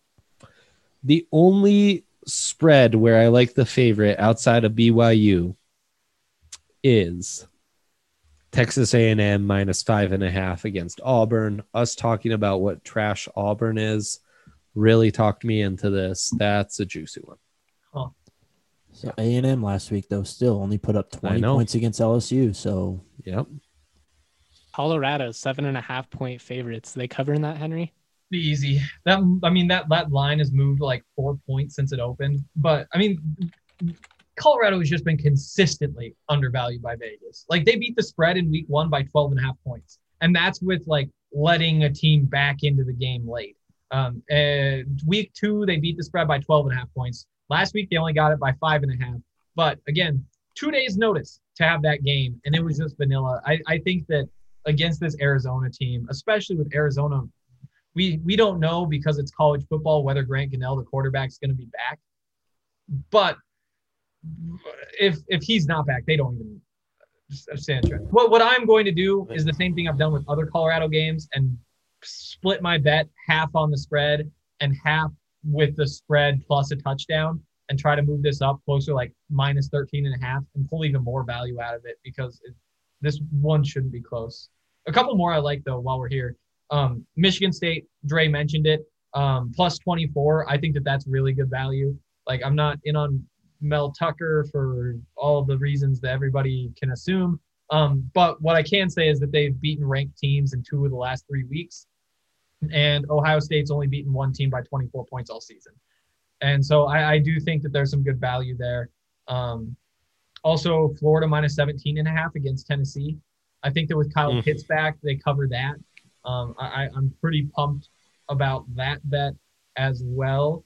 The only spread where I like the favorite outside of BYU is Texas A&M minus 5.5 against Auburn. Us talking about what trash Auburn is really talked me into this. That's a juicy one. Huh. So A&M last week, though, still only put up 20 points against LSU. So, yep. Colorado, 7.5-point favorites. They covering that, Henry? Be easy. That line has moved like 4 points since it opened. But Colorado has just been consistently undervalued by Vegas. Like they beat the spread in week 1 by 12.5 points. And that's with like letting a team back into the game late. Week 2, they beat the spread by 12.5 points. Last week, they only got it by 5.5. But again, 2 days notice to have that game. And it was just vanilla. I think that against this Arizona team, especially with Arizona, we don't know because it's college football whether Grant Gunnell, the quarterback, is going to be back. But if he's not back, they don't even stand a chance. What I'm going to do is the same thing I've done with other Colorado games and split my bet half on the spread and half with the spread plus a touchdown and try to move this up closer like minus 13.5 and pull even more value out of it because this one shouldn't be close. A couple more I like though while we're here. Michigan State, Dre mentioned it, plus 24. I think that's really good value. Like I'm not in on Mel Tucker for all the reasons that everybody can assume. But what I can say is that they've beaten ranked teams in 2 of the last 3 weeks. And Ohio State's only beaten 1 team by 24 points all season. And so I do think that there's some good value there. Also, Florida minus 17.5 against Tennessee. I think that with Kyle Pitts back, they cover that. I'm pretty pumped about that bet as well.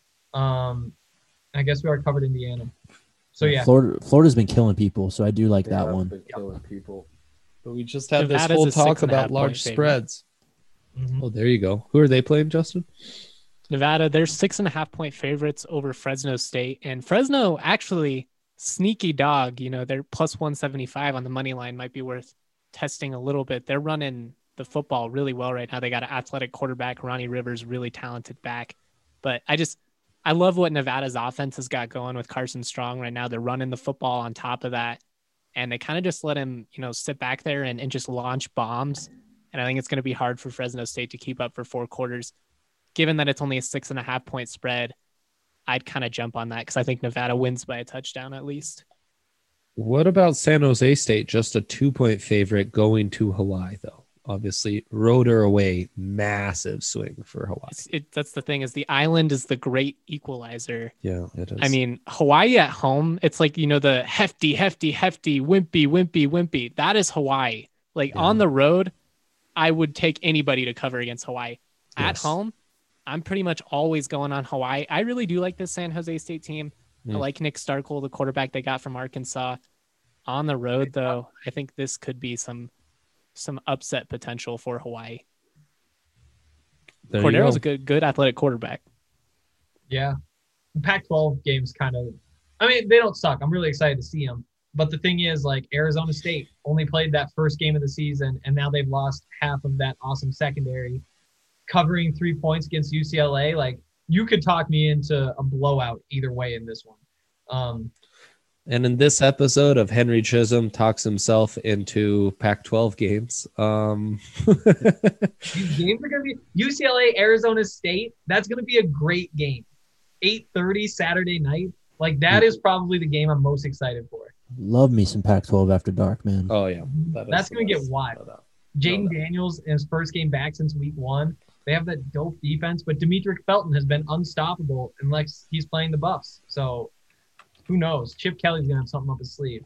I guess we already covered Indiana. So, yeah. Florida's been killing people, so I do like that one. Been killing people. But we just had this whole talk about large spreads. Mm-hmm. Oh, there you go. Who are they playing, Justin? Nevada, they're 6.5-point favorites over Fresno State. And Fresno, actually, sneaky dog. They're plus 175 on the money line. Might be worth testing a little bit. They're running the football really well right now. They got an athletic quarterback, Ronnie Rivers, really talented back. But I love what Nevada's offense has got going with Carson Strong right now. They're running the football on top of that. And they kind of just let him, sit back there and just launch bombs. And I think it's going to be hard for Fresno State to keep up for 4 quarters. Given that it's only a 6.5-point spread, I'd kind of jump on that because I think Nevada wins by a touchdown at least. What about San Jose State? Just a 2-point favorite going to Hawaii, though. Obviously, road or away, massive swing for Hawaii. That's the thing is the island is the great equalizer. Yeah, it is. I mean, Hawaii at home, it's like, the hefty, wimpy. That is Hawaii. On the road, I would take anybody to cover against Hawaii. At home, I'm pretty much always going on Hawaii. I really do like this San Jose State team. I like Nick Starkel, the quarterback they got from Arkansas. On the road, though, I think this could be some upset potential for Hawaii. Cordero's a good athletic quarterback. Yeah. The Pac-12 games they don't suck. I'm really excited to see them. But the thing is, like, Arizona State only played that first game of the season, and now they've lost half of that awesome secondary. Covering 3 points against UCLA, like, you could talk me into a blowout either way in this one. And in this episode of Henry Chisholm talks himself into Pac-12 games. These games are going to be UCLA, Arizona State. That's going to be a great game. 8:30 Saturday night. Like, that is probably the game I'm most excited for. Love me some Pac-12 after dark, man. Oh, yeah. That's going to get wild. Jaden Daniels in his first game back since week 1. They have that dope defense, but Demetric Felton has been unstoppable unless he's playing the Buffs. So who knows? Chip Kelly's going to have something up his sleeve.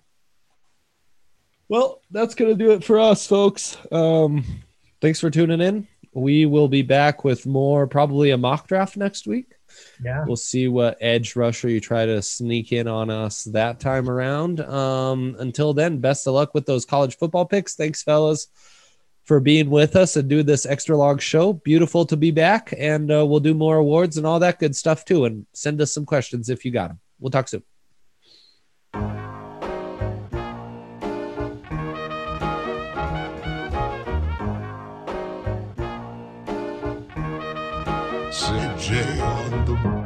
Well, that's going to do it for us, folks. Thanks for tuning in. We will be back with more, probably a mock draft next week. Yeah. We'll see what edge rusher you try to sneak in on us that time around. Until then, best of luck with those college football picks. Thanks, fellas, for being with us and doing this extra long show. Beautiful to be back, and we'll do more awards and all that good stuff too. And send us some questions if you got them. We'll talk soon. CJ on the